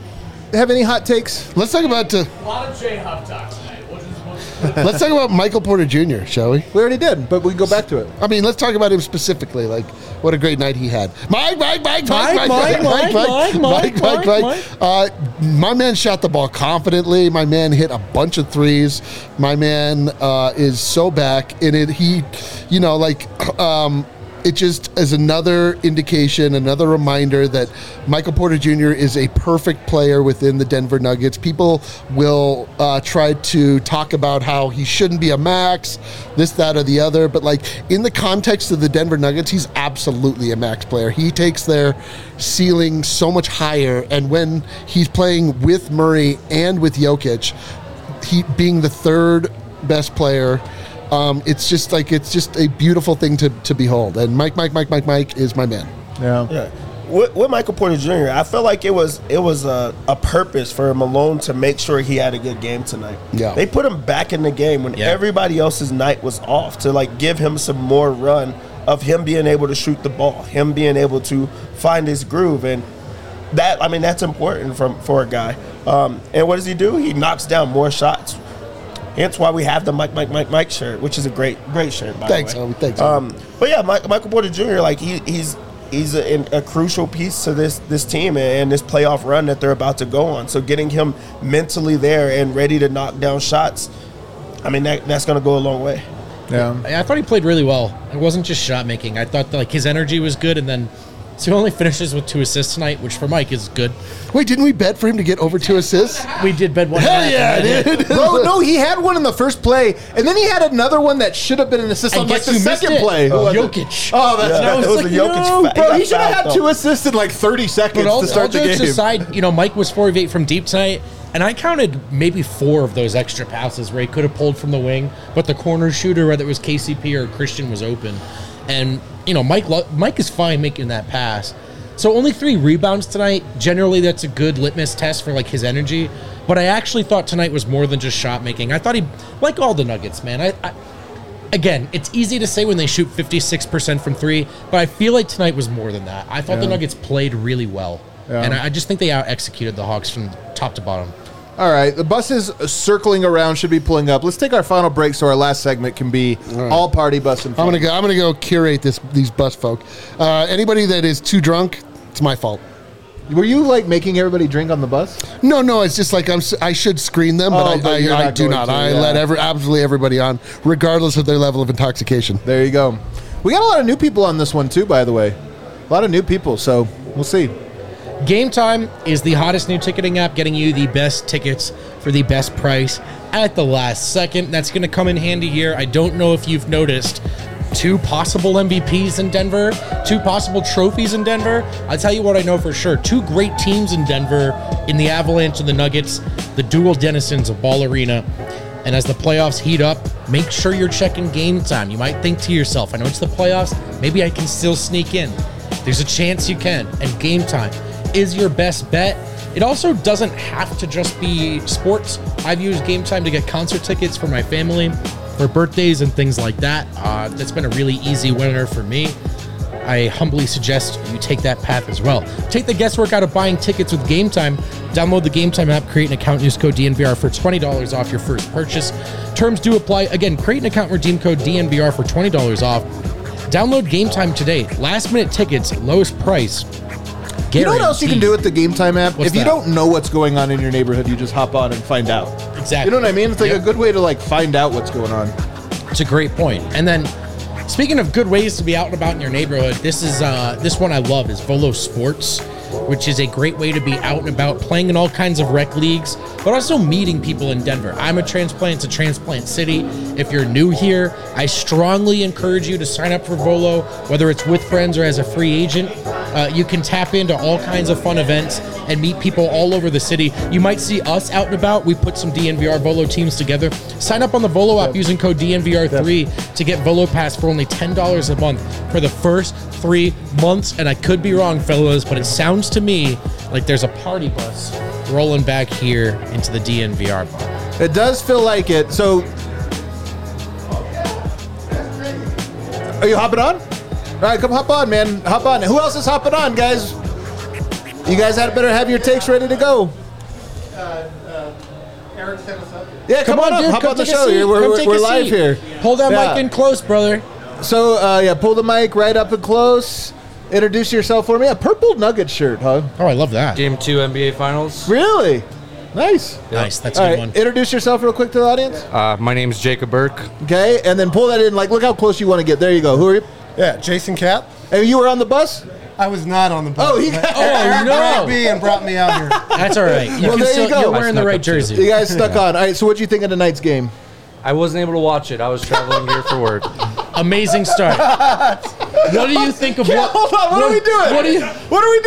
have any hot takes? Let's talk about uh, A lot of J Huff talk tonight. What is let's talk about Michael Porter Junior, shall we? We already did, but we can go back to it. I mean, let's talk about him specifically. Like, what a great night he had. Mike, Mike, Mike, Mike, Mike, Mike, Mike, Mike, Mike, Mike, Mike, Mike, Mike. Uh, my man shot the ball confidently. My man hit a bunch of threes. My man uh, is so back in it. He, you know, like, um, it just is another indication, another reminder that Michael Porter Junior is a perfect player within the Denver Nuggets. People will uh, try to talk about how he shouldn't be a max, this, that, or the other. But, like, in the context of the Denver Nuggets, he's absolutely a max player. He takes their ceiling so much higher. And when he's playing with Murray and with Jokic, he being the third best player, Um, it's just like it's just a beautiful thing to, to behold. And Mike, Mike, Mike, Mike, Mike is my man. Yeah. Yeah. with, with Michael Porter Junior, I felt like it was it was a, a purpose for Malone to make sure he had a good game tonight. Yeah. They put him back in the game when Yeah. everybody else's night was off to like give him some more run of him being able to shoot the ball, him being able to find his groove, and that I mean that's important from for a guy. Um, and what does he do? He knocks down more shots. Hence why we have the Mike Mike Mike Mike shirt, which is a great great shirt. By Thanks, the way. homie. Thanks, Um, but yeah, Mike, Michael Porter Junior Like he, he's he's a, a crucial piece to this this team and this playoff run that they're about to go on. So getting him mentally there and ready to knock down shots, I mean that that's going to go a long way. Yeah. I thought he played really well. It wasn't just shot making. I thought that, like his energy was good, and then so he only finishes with two assists tonight, which for Mike is good. Wait, didn't we bet for him to get over two assists? We did bed one. Hell and a yeah, half, and then- dude. Bro, no, he had one in the first play, and then he had another one that should have been an assist And on like guess the who missed second it? play. Who was it? Jokic. Oh, that's Yeah, right. it was a Jokic no, fa- he bro. got He should have had fouled, two though. assists in like thirty seconds But all, to start all the jokes game. aside, you know, Mike was four of eight from deep tonight, and I counted maybe four of those extra passes where he could have pulled from the wing, but the corner shooter, whether it was K C P or Christian, was open. And, you know, Mike lo- Mike is fine making that pass. So only three rebounds tonight. Generally, that's a good litmus test for, like, his energy. But I actually thought tonight was more than just shot making. I thought he, like all the Nuggets, man, I, I Again, it's easy to say when they shoot fifty-six percent from three, but I feel like tonight was more than that. I thought the Yeah. Nuggets played really well. Yeah. And I I just think they out-executed the Hawks from top to bottom. All right, the buses circling around should be pulling up. Let's take our final break so our last segment can be all party bus and I'm fun. gonna go. I'm gonna go curate this these bus folk. Uh, anybody that is too drunk, it's my fault. Were you like making everybody drink on the bus? No, no, it's just like I'm. s- I should screen them, but Oh, I, but you're I, I not do going not. to, I yeah. let every absolutely everybody on, regardless of their level of intoxication. There you go. We got a lot of new people on this one too, by the way. A lot of new people, so we'll see. Game Time is the hottest new ticketing app, getting you the best tickets for the best price at the last second. That's going to come in handy here. I don't know if you've noticed two possible M V Ps in Denver, two possible trophies in Denver. I'll tell you what I know for sure. Two great teams in Denver in the Avalanche and the Nuggets, the dual denizens of Ball Arena. And as the playoffs heat up, make sure you're checking Game Time. You might think to yourself, I know it's the playoffs, maybe I can still sneak in. There's a chance you can. And Game Time is your best bet. It also doesn't have to just be sports. I've used Game Time to get concert tickets for my family, for birthdays and things like that. Uh, that's been a really easy winner for me. I humbly suggest you take that path as well. Take the guesswork out of buying tickets with Game Time. Download the Game Time app, create an account, use code D N V R for twenty dollars off your first purchase. Terms do apply. Again, create an account, redeem code D N V R for twenty dollars off. Download Game Time today. Last minute tickets, lowest price. You know what else you can do Guaranteed. with the Game Time app? What's if you that? don't know what's going on in your neighborhood, you just hop on and find out. Exactly. You know what I mean? It's like Yep. a good way to like find out what's going on. It's a great point. And then, speaking of good ways to be out and about in your neighborhood, this is uh, this one I love is Volo Sports, which is a great way to be out and about, playing in all kinds of rec leagues, but also meeting people in Denver. I'm a transplant; it's a transplant city. If you're new here, I strongly encourage you to sign up for Volo, whether it's with friends or as a free agent. Uh, you can tap into all kinds of fun events and meet people all over the city. You might see us out and about. We put some D N V R Volo teams together. Sign up on the Volo app using code D N V R three to get Volo Pass for only ten dollars a month for the first three months. And I could be wrong, fellas, but it sounds to me like there's a party bus rolling back here into the D N V R bar. It does feel like it. So, are you hopping on? All right, come hop on, man. Hop on. Who else is hopping on, guys? You guys had better have your takes ready to go. Eric sent us up. Yeah, come, on, up. dude, Hop come on the take a show. seat. We're, Come we're, take we're a live seat. here. Hold that Yeah. mic in close, brother. So, uh, yeah, pull the mic right up and close. Introduce yourself for me. A purple Nugget shirt, huh? Oh, I love that. Game two N B A Finals. Really? Nice. Nice. That's a All good right, one. introduce yourself real quick to the audience. Uh, my name is Jacob Burke. Okay, and then pull that in. Like, look how close you want to get. There you go. Who are you? Yeah, Jason Cap. And you were on the bus? I was not on the bus. Oh, he but got- Eric Oh, no. grabbed me and brought me out here. That's all right. You Well, can there you still, go. You're I wearing the snuck right up too. jersey. You guys stuck on. All right, so what'd you think of tonight's game? I wasn't able to watch it. I was traveling here for work. Amazing start. What do you think of Yeah, what? hold on. What, are we doing? What do you? What are we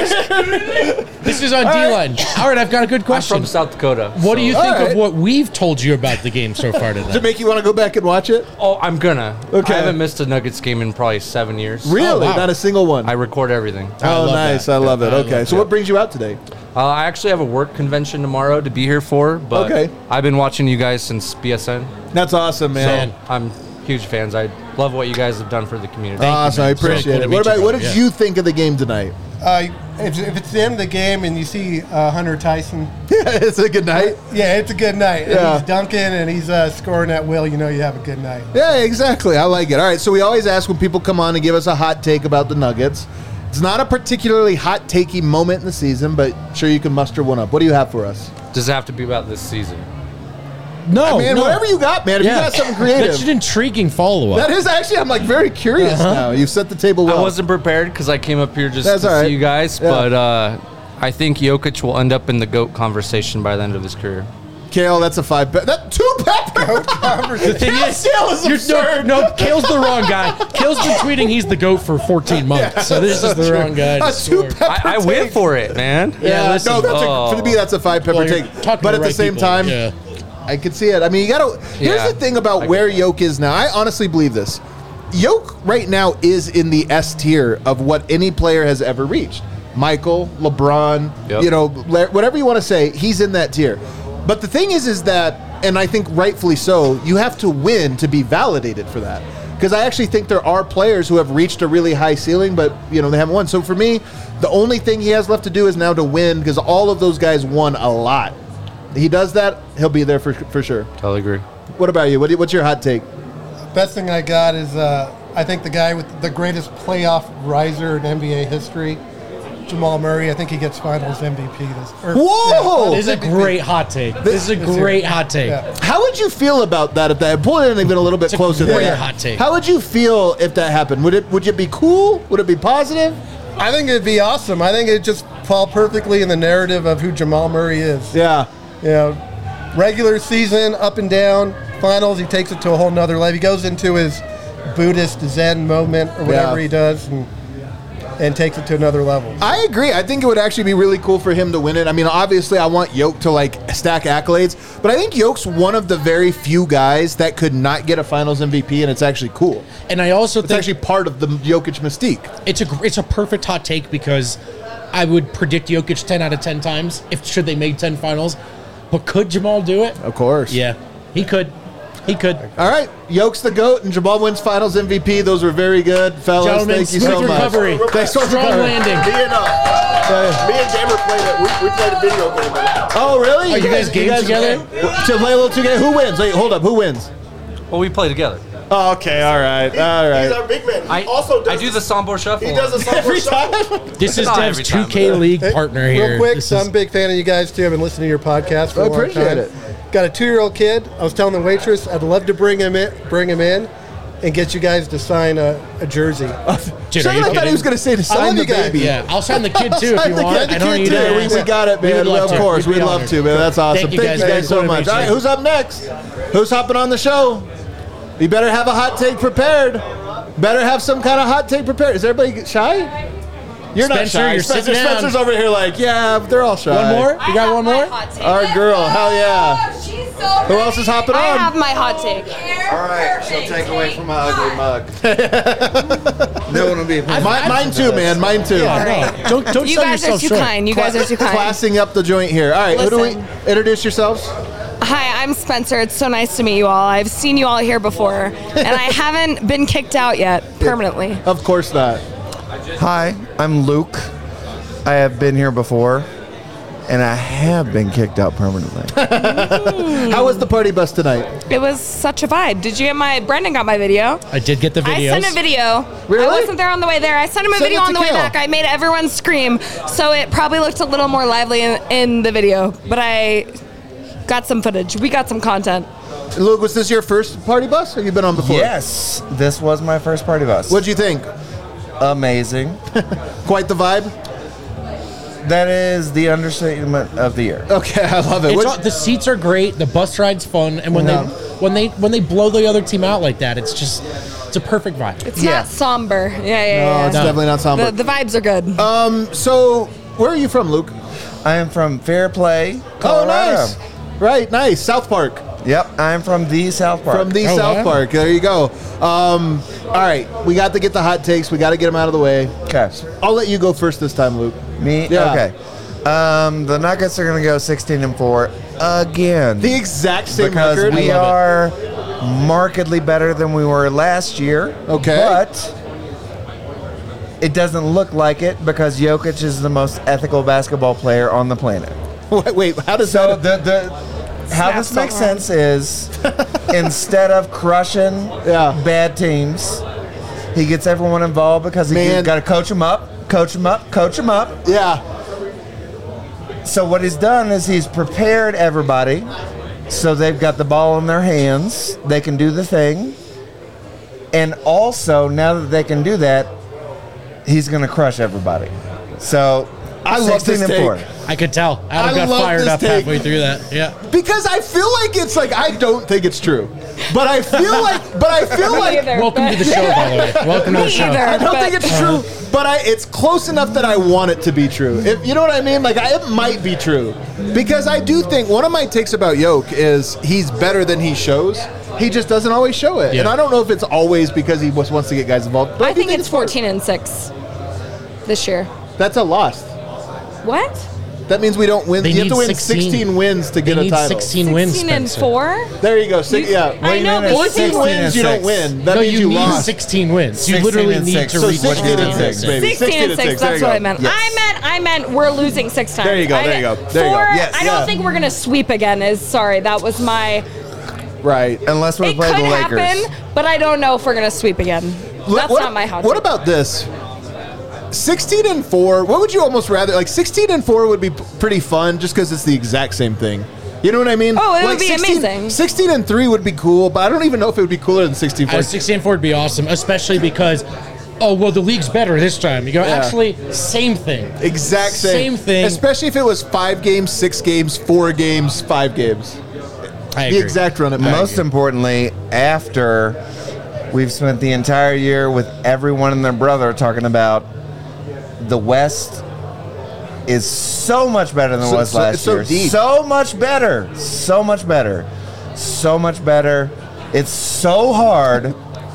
doing? This is on D right. line. All right, I've got a good I'm question. from South Dakota. What do you so- think All right. of what we've told you about the game so far Does it tonight? make you want to go back and watch it? Oh, I'm gonna. Okay. I haven't missed a Nuggets game in probably seven years. Really? Oh, wow. Not a single one. I record everything. I oh, love nice. that. I love it. I Okay. love So, what brings you out today? Uh, I actually have a work convention tomorrow to be here for, but Okay. I've been watching you guys since B S N. That's awesome, man. So I'm huge fans. I love what you guys have done for the community. Awesome. I man. It's really appreciate cool to it. meet What you, about what bro. did Yeah. you think of the game tonight? Uh, if, if it's the end of the game and you see uh, Hunter Tyson, Yeah, it's a good night. yeah, it's a good night. And Yeah. he's dunking and he's uh, scoring at will. You know you have a good night. Yeah, exactly. I like it. All right, so we always ask when people come on and give us a hot take about the Nuggets. It's not a particularly hot takey moment in the season, but sure you can muster one up. What do you have for us? Does it have to be about this season? No, man, no. whatever you got, man. If you got something creative. That's an intriguing follow up. That is actually, I'm like very curious now. You've set the table well. I wasn't prepared because I came up here just That's to all right. see you guys, Yeah. but uh, I think Jokic will end up in the GOAT conversation by the end of his career. Kale, that's a five. Pe- that two pepper. The thing Kale is, Sale is you're, absurd. no, no, Kale's the wrong guy. Kale's been tweeting he's the GOAT for fourteen months, so this is the wrong guy. to A two score. pepper. I, I went for it, man. Yeah, Yeah, listen. no, that's Oh. a, for me that's a five pepper Well, you're take. talking But to at the the same right people. time, Yeah. I could see it. I mean, you got to. Here's Yeah. the thing about I where get Yoke is now. I honestly believe this. Yoke right now is in the S tier of what any player has ever reached. Michael, LeBron, Yep. you know, la- whatever you want to say, he's in that tier. But the thing is, is that, and I think rightfully so, you have to win to be validated for that. Because I actually think there are players who have reached a really high ceiling, but you know they haven't won. So for me, the only thing he has left to do is now to win, because all of those guys won a lot. He does that, he'll be there for for sure. Totally agree. What about you? What do you- what's your hot take? Best thing I got is uh, I think the guy with the greatest playoff riser in N B A history, Jamal Murray. I think he gets Finals M V P this. Or, Whoa! yeah, This is a M V P. great hot take. This is a This great year. hot take. Yeah. How would you feel about that if that pull it in even a little bit It's a closer? great than that. hot take. How would you feel if that happened? Would it would it be cool? Would it be positive? I think it'd be awesome. I think it'd just fall perfectly in the narrative of who Jamal Murray is. Yeah. You know, regular season, up and down. Finals, he takes it to a whole nother level. He goes into his Buddhist Zen moment or whatever Yeah. he does and, and takes it to another level. I agree. I think it would actually be really cool for him to win it. I mean, obviously, I want Yoke to like stack accolades, but I think Yoke's one of the very few guys that could not get a Finals M V P, and it's actually cool. And I also It's think actually part of the Jokic mystique. it's a gr- it's a perfect hot take because I would predict Jokic ten out of ten times if should they make ten finals. But could Jamal do it? Of course. Yeah, he could. He could. All right. Yoke's the GOAT, and Jamal wins Finals M V P. Those were very good, fellas. Gentlemen, Thank you smooth so much. recovery. Thanks for Strong recovering. landing. Me and, uh, me and Gamer played it. We, we played a video game. with it. Oh, really? Oh, you guys game together? To play a little together? Who wins? Wait, hold up. Who wins? Well, we play together. Oh, okay. All right. All He's right. our big man. He I also does I do the Sombor Shuffle. He does a song Every for time. This is Not Dev's every time, two K but- league Hey, partner here. Real quick, This so is- I'm a big fan of you guys too. I've been listening to your podcast for I a long appreciate time. it. Got a two-year-old kid. I was telling the waitress I'd love to bring him in, bring him in, and get you guys to sign a, a jersey. Dude, Sure, are you I thought kidding? he was going to say to sign love the you guys. baby. Yeah, I'll sign the kid too if Sign you the want. kid- I the don't kid need too. to We, we got it, We man. would love Of to. course. We'd be We'd love honored. to, man. That's awesome. Thank you guys. you guys so Totally much. All right, appreciate it. who's up next? Who's hopping on the show? You better have a hot take prepared. Better have some kind of hot take prepared. Is everybody shy? You're not Spencer, shy. you're Spencer, sitting down. Spencer's over here like, yeah, they're all shy. One more? I You got have one my more? hot take. Our girl, hell yeah. Oh, she's so Who else is hopping I on? have my hot take. All right, she'll take away from my ugly mug. No one will be. Mine, mine too, man. Mine too. Yeah, no. Don't don't You sell guys are yourself too short. kind. You guys are too kind. Classing up the joint here. All right, who do we Listen. introduce yourselves? Hi, I'm Spencer. It's so nice to meet you all. I've seen you all here before, and I haven't been kicked out yet permanently. Of course not. Hi, I'm Luke. I have been here before, and I have been kicked out permanently. How was the party bus tonight? It was such a vibe. Did you get my? Brendan got my video. I did get the videos. I sent a video. Really? I wasn't there on the way there. I sent him a Send video it to on the way Kale. back. I made everyone scream, so it probably looked a little more lively in, in the video. But I got some footage. We got some content. Luke, was this your first party bus? Or have you been on before? Yes, this was my first party bus. What'd you think? Amazing. Quite the vibe? That is the understatement of the year. Okay, I love it. It's What'd- all, the seats are great. The bus ride's fun, and when Yeah. they when they when they blow the other team out like that, it's just it's it's a perfect vibe. It's Yeah. not somber. Yeah, yeah, No, yeah. it's No. definitely not somber. The, the vibes are good. um, so where are you from, Luke? I am from Fair Play, Colorado. Oh, nice. Right, nice. South Park. Yep, I'm from the South Park. From the Oh, South wow. Park. There you go. Um, all right, we got to get the hot takes. We got to get them out of the way. Okay. I'll let you go first this time, Luke. Me? Yeah. Okay. Um, the Nuggets are going to go sixteen and four again. The exact same because record. we I love are markedly better than we were last year. Okay. But it doesn't look like it because Jokic is the most ethical basketball player on the planet. Wait, wait, how does So that? the the how Snap this makes so hard. sense is instead of crushing Yeah. bad teams, he gets everyone involved because he Man. got to coach them up, coach them up, coach them up. Yeah. So what he's done is he's prepared everybody so they've got the ball in their hands. They can do the thing. And also, now that they can do that, he's going to crush everybody. So, I love sixteen this and take. four. I could tell. Adam I got love fired this up take. halfway through that. Yeah. Because I feel like it's like I don't think it's true, but I feel like, but I feel Me like either, Welcome to but- the show, by the way. Welcome to the Me show. either. I don't but- think it's true, but I it's close enough that I want it to be true. If you know what I mean, like I, it might be true because I do think one of my takes about Yoke is he's better than he shows. He just doesn't always show it, Yeah. and I don't know if it's always because he just wants to get guys involved. But I do think it's fourteen and six this year. That's a loss. What? That means we don't win. They you have need to win sixteen. sixteen wins to They get a need title. sixteen wins. sixteen and Spencer. four? There you go. Six, yeah. I do you know, mean but it's you fourteen think wins, you don't six? win. That no, means you, you need lost. sixteen wins. You sixteen literally and need six. to So reach sixteen sixteen and six, wins. baby. sixteen and sixteen and six. six, there That's you what go. I meant. Yes. I meant I meant we're losing six times. There you go, I there you meant- go, there you go. Four, Yes. I don't Yeah. think we're gonna sweep again. Is sorry, that was my. Right. Unless we It play could the Lakers. happen, but I don't know if we're gonna sweep again. That's what, not my hot What take. about this? sixteen and four. What would you almost rather like? sixteen and four would be p- pretty fun, just because it's the exact same thing. You know what I mean? Oh, it would Like be sixteen amazing. sixteen and three would be cool, but I don't even know if it would be cooler than sixteen four. Uh, sixteen and four would be awesome, especially because, oh, well, the league's better this time. You go, Yeah. actually, same thing. Exact same. Same thing. Especially if it was five games, six games, four games, five games. I The agree. exact run it back. Most importantly, after we've spent the entire year with everyone and their brother talking about the West is so much better than So- it was so- last it's so year. deep. So much better. So much better. So much better. It's so hard.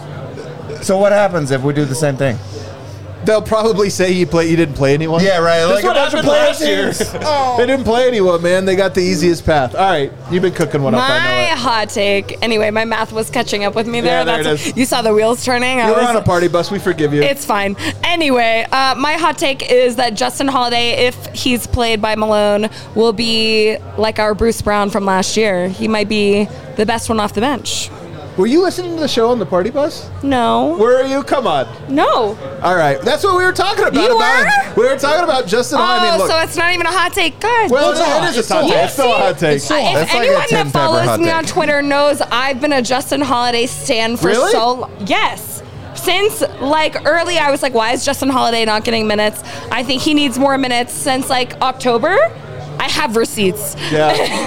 So what happens if we do the same thing? They'll probably say you play. You didn't play anyone. Yeah, right. That's Like what a bunch of happened last year. players. They didn't play anyone, man. They got the easiest path. All right, you've been cooking one up. I know My it. hot take. Anyway, my math was catching up with me there. Yeah, there it That's is. You saw the wheels turning. I You were was- on a party bus. We forgive you. It's fine. Anyway, uh, my hot take is that Justin Holiday, if he's played by Malone, will be like our Bruce Brown from last year. He might be the best one off the bench. Were you listening to the show on the party bus? No. Where are you? Come on. No. All right, that's what we were talking about. You about were? We were talking about Justin. Oh, I mean, look. so it's not even a hot take. God. well, damn. it is a hot take. It's still a hot take. Uh, if It's like a anyone Tim that Pepper follows hot me take. on Twitter knows I've been a Justin Holiday stan for Really? so long. Yes. Since like early, I was like, why is Justin Holiday not getting minutes? I think he needs more minutes since like October. I have receipts. Yeah.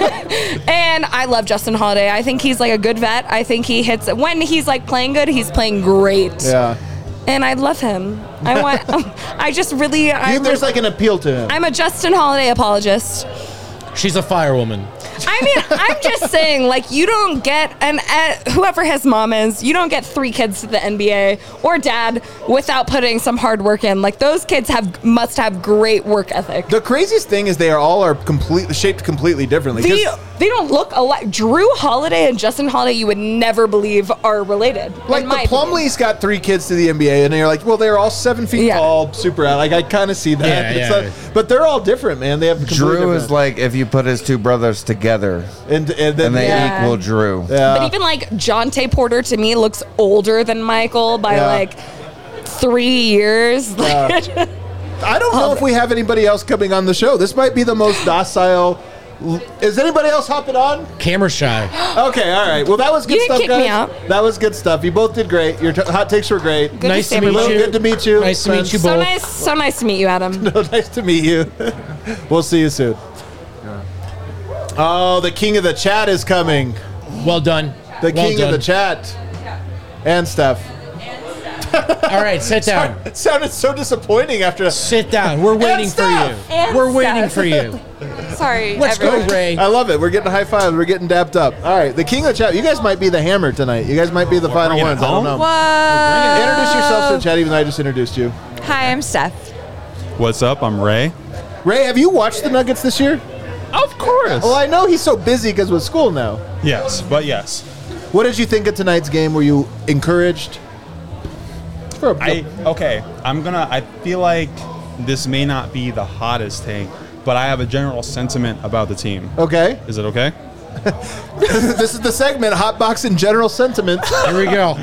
And I love Justin Holiday. I think he's like a good vet. I think he hits when he's like playing good, he's playing great. Yeah. And I love him. I want I just really I You, there's like an appeal to him. I'm a Justin Holiday apologist. She's a firewoman. I mean, I'm just saying, like, you don't get, and uh, whoever his mom is, you don't get three kids to the N B A or dad without putting some hard work in. Like, those kids have must have great work ethic. The craziest thing is they are all are completely shaped completely differently. 'Cause- They, they don't look alike. Drew Holiday and Justin Holiday, you would never believe are related. Like in the my opinion. Plumlee's got three kids to the N B A, and you're like, well, they're all seven feet Yeah. tall, super. Like I kind of see that. Yeah, It's yeah. like- but they're all different, man. They have completely Drew is different- like if you put his two brothers together and and then and they Yeah. equal Drew. yeah. But even like Jonte Porter to me looks older than Michael by Yeah. like three years. Like, I don't know if we have anybody else coming on the show. This might be the most docile. Is anybody else hopping on? Camera shy. Okay, all right. Well, that was good You didn't stuff, kick guys. me out. That was good stuff. You both did great. Your t- hot takes were great. Good Nice to to see meet everybody. you. Good to meet you. Nice to meet friends. you So both. nice, so nice to meet you, Adam. No, nice to meet you. We'll see you soon. Oh, the king of the chat is coming. Well done. The well king done. of the chat and stuff. All right, sit down. It sounded so disappointing after. Sit down. We're waiting for Steph! you. And We're waiting Steph. for you. Sorry, Let's everyone. go, Ray. I love it. We're getting high fives. We're getting dapped up. All right, the king of the chat. You guys might be the hammer tonight. You guys might be the final bringing it ones. I don't know. home? Whoa. Introduce yourself to the chat, even though I just introduced you. Hi, I'm Steph. What's up? I'm Ray. Ray, have you watched the Nuggets this year? Of course. Well, I know he's so busy because with school now. Yes, but yes. What did you think of tonight's game? Were you encouraged? For a, I okay. I'm gonna. I feel like this may not be the hottest take, but I have a general sentiment about the team. okay. Is it okay? This is the segment, Hot Box and General Sentiment. Here we go.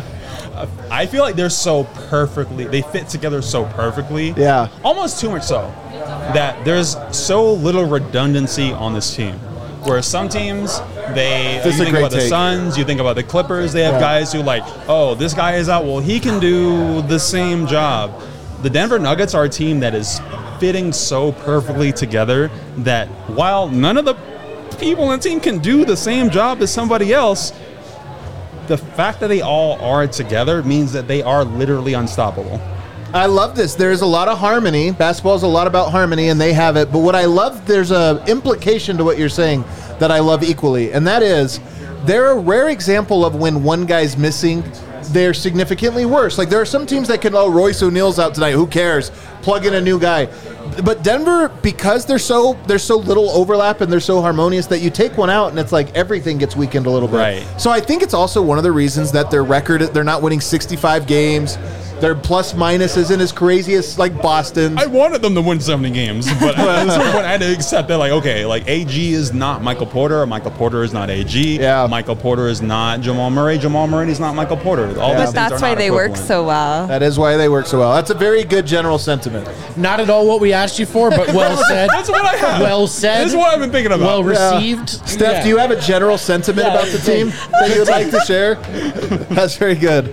I feel like they're so perfectly. They fit together so perfectly. Yeah. Almost too much so that there's so little redundancy on this team. Whereas some teams, they This is you a think great about the take. Suns, you think about the Clippers, they have Yeah. guys who like, oh, this guy is out, well, he can do the same job. The Denver Nuggets are a team that is fitting so perfectly together that while none of the people on the team can do the same job as somebody else, the fact that they all are together means that they are literally unstoppable. I love this. There's a lot of harmony. Basketball is a lot about harmony, and they have it. But what I love, there's a implication to what you're saying that I love equally, and that is they're a rare example of when one guy's missing, they're significantly worse. Like there are some teams that can, oh, Royce O'Neal's out tonight. Who cares? Plug in a new guy. But Denver, because they're so there's so little overlap and they're so harmonious that you take one out and it's like everything gets weakened a little bit. Right. So I think it's also one of the reasons that their record, they're not winning sixty-five games. Their plus minus isn't as crazy as like Boston's. I wanted them to win seventy games, but at some point I had to accept that, like, okay, like A G is not Michael Porter, Michael Porter is not A G, Yeah. Michael Porter is not Jamal Murray, Jamal Murray is not Michael Porter. All Yeah. these But things That's are why not they work equivalent. so well. That is why they work so well. That's a very good general sentiment. Not at all what we asked you for, but well said. That's what I have. Well said. This is what I've been thinking about. Well Yeah. received. Steph, Yeah. do you have a general sentiment Yeah. about the team that you'd like to share? That's very good.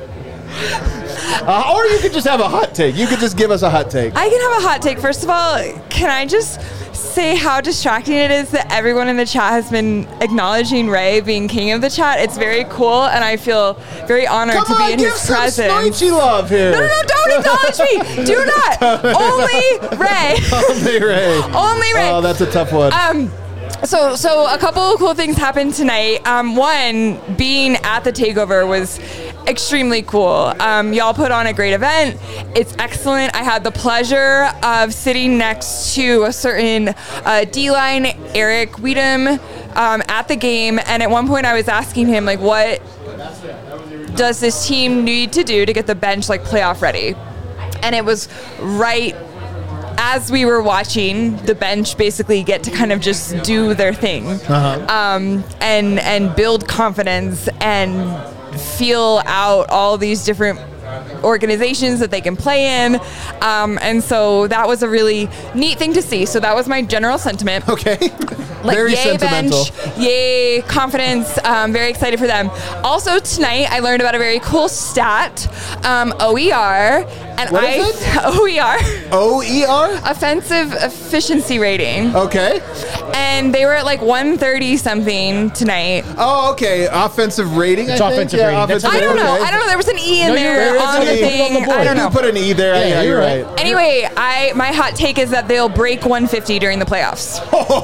Uh, or you could just have a hot take. You could just give us a hot take. I can have a hot take. First of all, can I just say how distracting it is that everyone in the chat has been acknowledging Ray being king of the chat? It's very cool, and I feel very honored Come to on, be in give his some presence. Snoichi love here. No, no, no, don't acknowledge me. Do not. Only Ray. Only Ray. Only Ray. Oh, that's a tough one. Um, so, so a couple of cool things happened tonight. Um, one, being at the takeover was extremely cool. Um, y'all put on a great event. It's excellent. I had the pleasure of sitting next to a certain uh, D-line, Eric Weedham, um, at the game. And at one point I was asking him, like, what does this team need to do to get the bench, like, playoff ready? And it was right as we were watching the bench basically get to kind of just do their thing, Uh-huh. um, and and build confidence and feel out all these different organizations that they can play in, um, and so that was a really neat thing to see. So that was my general sentiment. Okay. Like, Very yay sentimental. bench, yay confidence. Um, very excited for them. Also tonight, I learned about a very cool stat, um, O E R, and What I is it? O E R, O E R? offensive efficiency rating, Okay. and they were at like one thirty something tonight. Oh, okay. Offensive rating, It's I think? offensive Yeah, rating. That's offensive I don't rating. know. Okay. I don't know. There was an E in No, you're there right. on the There is an E. thing. On the board. I don't You know. put an E there. Yeah, Yeah, you're you're right. right. Anyway, I my hot take is that they'll break one fifty during the playoffs.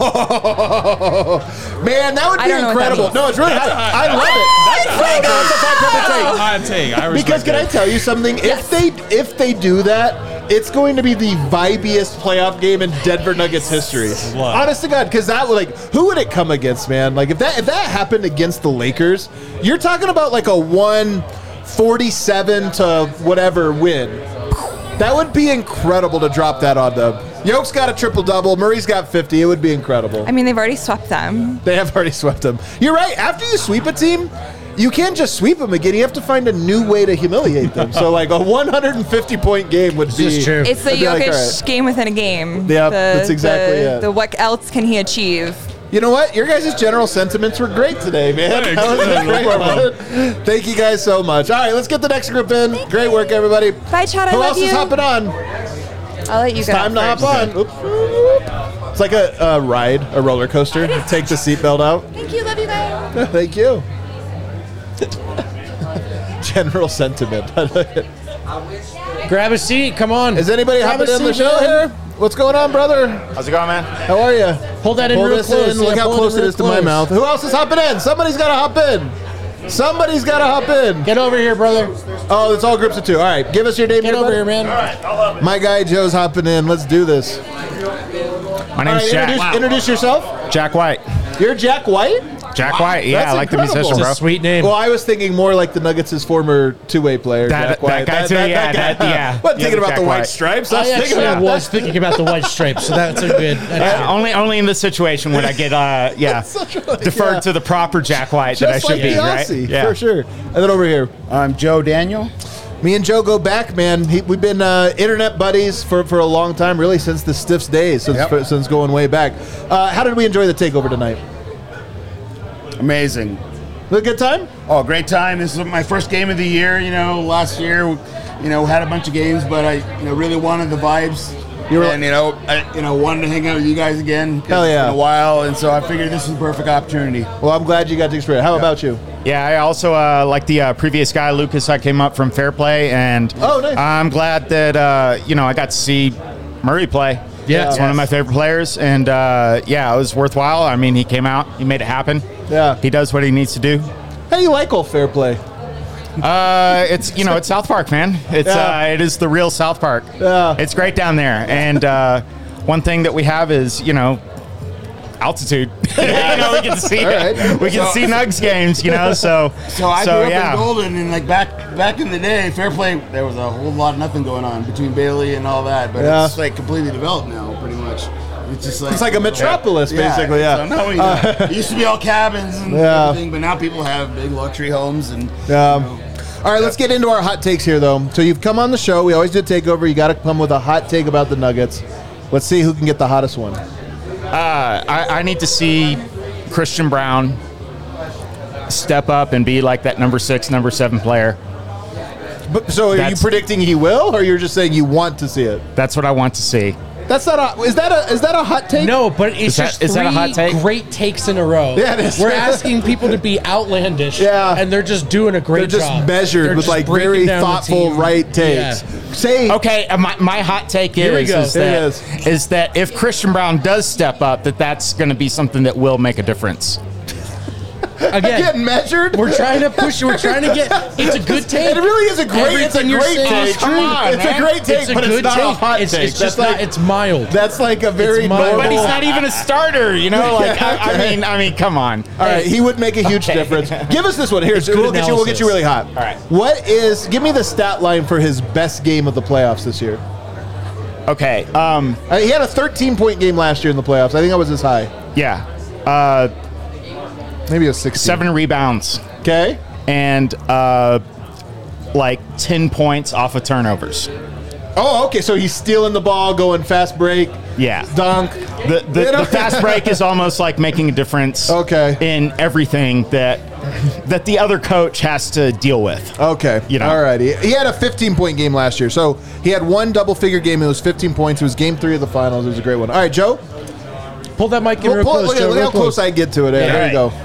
Man, that would I be don't know what that incredible. means. No, it's really hot. I love it. it's No, no, it's a five That's a take. hot take. I respect Because can I it. tell you something? Yes. If they if they do that, it's going to be the vibiest playoff game in Denver Nuggets history. Love. Honest to God, because that would like who would it come against, man? Like if that if that happened against the Lakers, you're talking about like a one forty-seven to whatever win. That would be incredible to drop that on them. Yoke's got a triple double. Murray's got fifty. It would be incredible. I mean, they've already swept them. They have already swept them. You're right. After you sweep a team, you can't just sweep them again. You have to find a new way to humiliate them. So, like a one hundred fifty point game would be. is true. It's the I'd be like, Jokic all right. game within a game. Yep, the, that's exactly the, it. The what else can he achieve? You know what? Your guys' general sentiments were great today, man. Thanks. That was a Yeah, no great problem. one. Thank you guys so much. All right, let's get the next group in. Great work, everybody. Bye, Chad. I Who love else you. is hopping on? I'll let you It's go. time to hop first. on. Oops. It's like a, a ride, a roller coaster. Take the seatbelt out. Thank you. Love you guys. Thank you. General sentiment. Grab a seat. Come on. Is anybody Grab hopping a in the seat, show man. here? What's going on, brother? How's it going, man? How are you? Hold that in Pull real this close. in. Yeah, Look how pull it close in it real is to my close. mouth. Who else is hopping in? Somebody's got to hop in. Somebody's got to hop in. Get over here, brother. Oh, it's all groups of two. All right, give us your name. Get over here, man. My guy Joe's hopping in. Let's do this. My All name's right, Jack. introduce, introduce yourself. Jack White. You're Jack White? Jack White. Yeah, That's I like the incredible. musician, It's bro. a sweet name. Well, I was thinking more like the Nuggets' former two-way player, That- Jack that White. guy too, yeah, that- yeah. I wasn't Yeah, thinking about Jack the white White. stripes. I I was thinking actually about was thinking about the white stripes, so that's a good. That's Uh, only, only in this situation would I get, uh, yeah, such a- deferred yeah. to the proper Jack White that I Just should like be, the right? Aussie, for sure. And then over here. I'm Joe Daniel. Me and Joe go back, man. He, we've been uh, internet buddies for, for a long time, really since the Stiffs days, since, Yep. since going way back. Uh, how did we enjoy the takeover tonight? Amazing. A good time? Oh, great time. This is my first game of the year. You know, last year, you know, had a bunch of games, but I, you know, really wanted the vibes. You were- and you know, I, you know, wanted to hang out with you guys again. 'cause Hell yeah. It's been a while, and so I figured this was a perfect opportunity. Well, I'm glad you got to experience. How about you? Yeah, I also uh, like the uh, previous guy, Lucas. I came up from Fair Play, and Oh, nice. I'm glad that uh, you know I got to see Murray play. Yeah. it's one of my favorite players, and uh, yeah, it was worthwhile. I mean, he came out, he made it happen. Yeah. He does what he needs to do. How do you like old Fair Play? Uh, it's you know it's South Park, man. It's Yeah. uh, it is the real South Park. Yeah. It's great down there, and uh, one thing that we have is you know altitude. you know, we can see All right. we can So- see Nugs games. You know, so So I grew up yeah. in Golden, and like back back in the day, Fair Play, there was a whole lot of nothing going on between Bailey and all that, but Yeah. it's like completely developed now, pretty much. It's just like It's like a metropolis, basically, yeah. So now we, uh, it used to be all cabins and Yeah. everything, but now people have big luxury homes and. Um, all right, let's get into our hot takes here, though. So you've come on the show. We always do a takeover. You got to come with a hot take about the Nuggets. Let's see who can get the hottest one. Uh, I, I need to see Christian Brown step up and be like that number six, number seven player. But, so are you That's- predicting he will, or you're just saying you want to see it? That's what I want to see. That's not a. Is that a? Is that a hot take? No, but it's Is that- just is that a three hot take? great takes in a row. Yeah, it is. We're asking people to be outlandish. Yeah. and they're just doing a great They're just job. measured They're with just like breaking very down the thoughtful, team. right takes. Yeah. Say Okay, uh, my, my hot take Here we is, go. is, Here it that, is. is that if Christian Brown does step up, that that's going to be something that will make a difference. Again, getting measured. we're trying to push. We're trying to get. It's a good take. It really is a great. It's a Everything you're great saying is take. true. Come on, it's man. a great take, It's a but good it's not take. a hot It's, take. it's just that's not. like, It's mild. that's like a very It's mild. normal. But he's not even a starter, you know. Like I, I Okay. mean, I mean, come on. All right, he would make a huge Okay. difference. Give us this one. Here, so good we'll get you. We'll get you really hot. All right. What is? Give me the stat line for his best game of the playoffs this year. Okay. Um. Uh, he had a thirteen point game last year in the playoffs. I think that was his high. Yeah. Uh. Maybe it was sixteen. Seven rebounds Okay. and uh, like ten points off of turnovers. Oh, okay. So he's stealing the ball, going fast break, Yeah. dunk. The the, You know? the fast break is almost like making a difference. Okay. In everything that that the other coach has to deal with. Okay. You know. All righty. He had a fifteen point game last year. So he had one double figure game. It was fifteen points. It was game three of the finals. It was a great one. All right, Joe. Pull that mic in Pull, real pull, close. look at, Joe, look real how close I get to it. Yeah. There you go.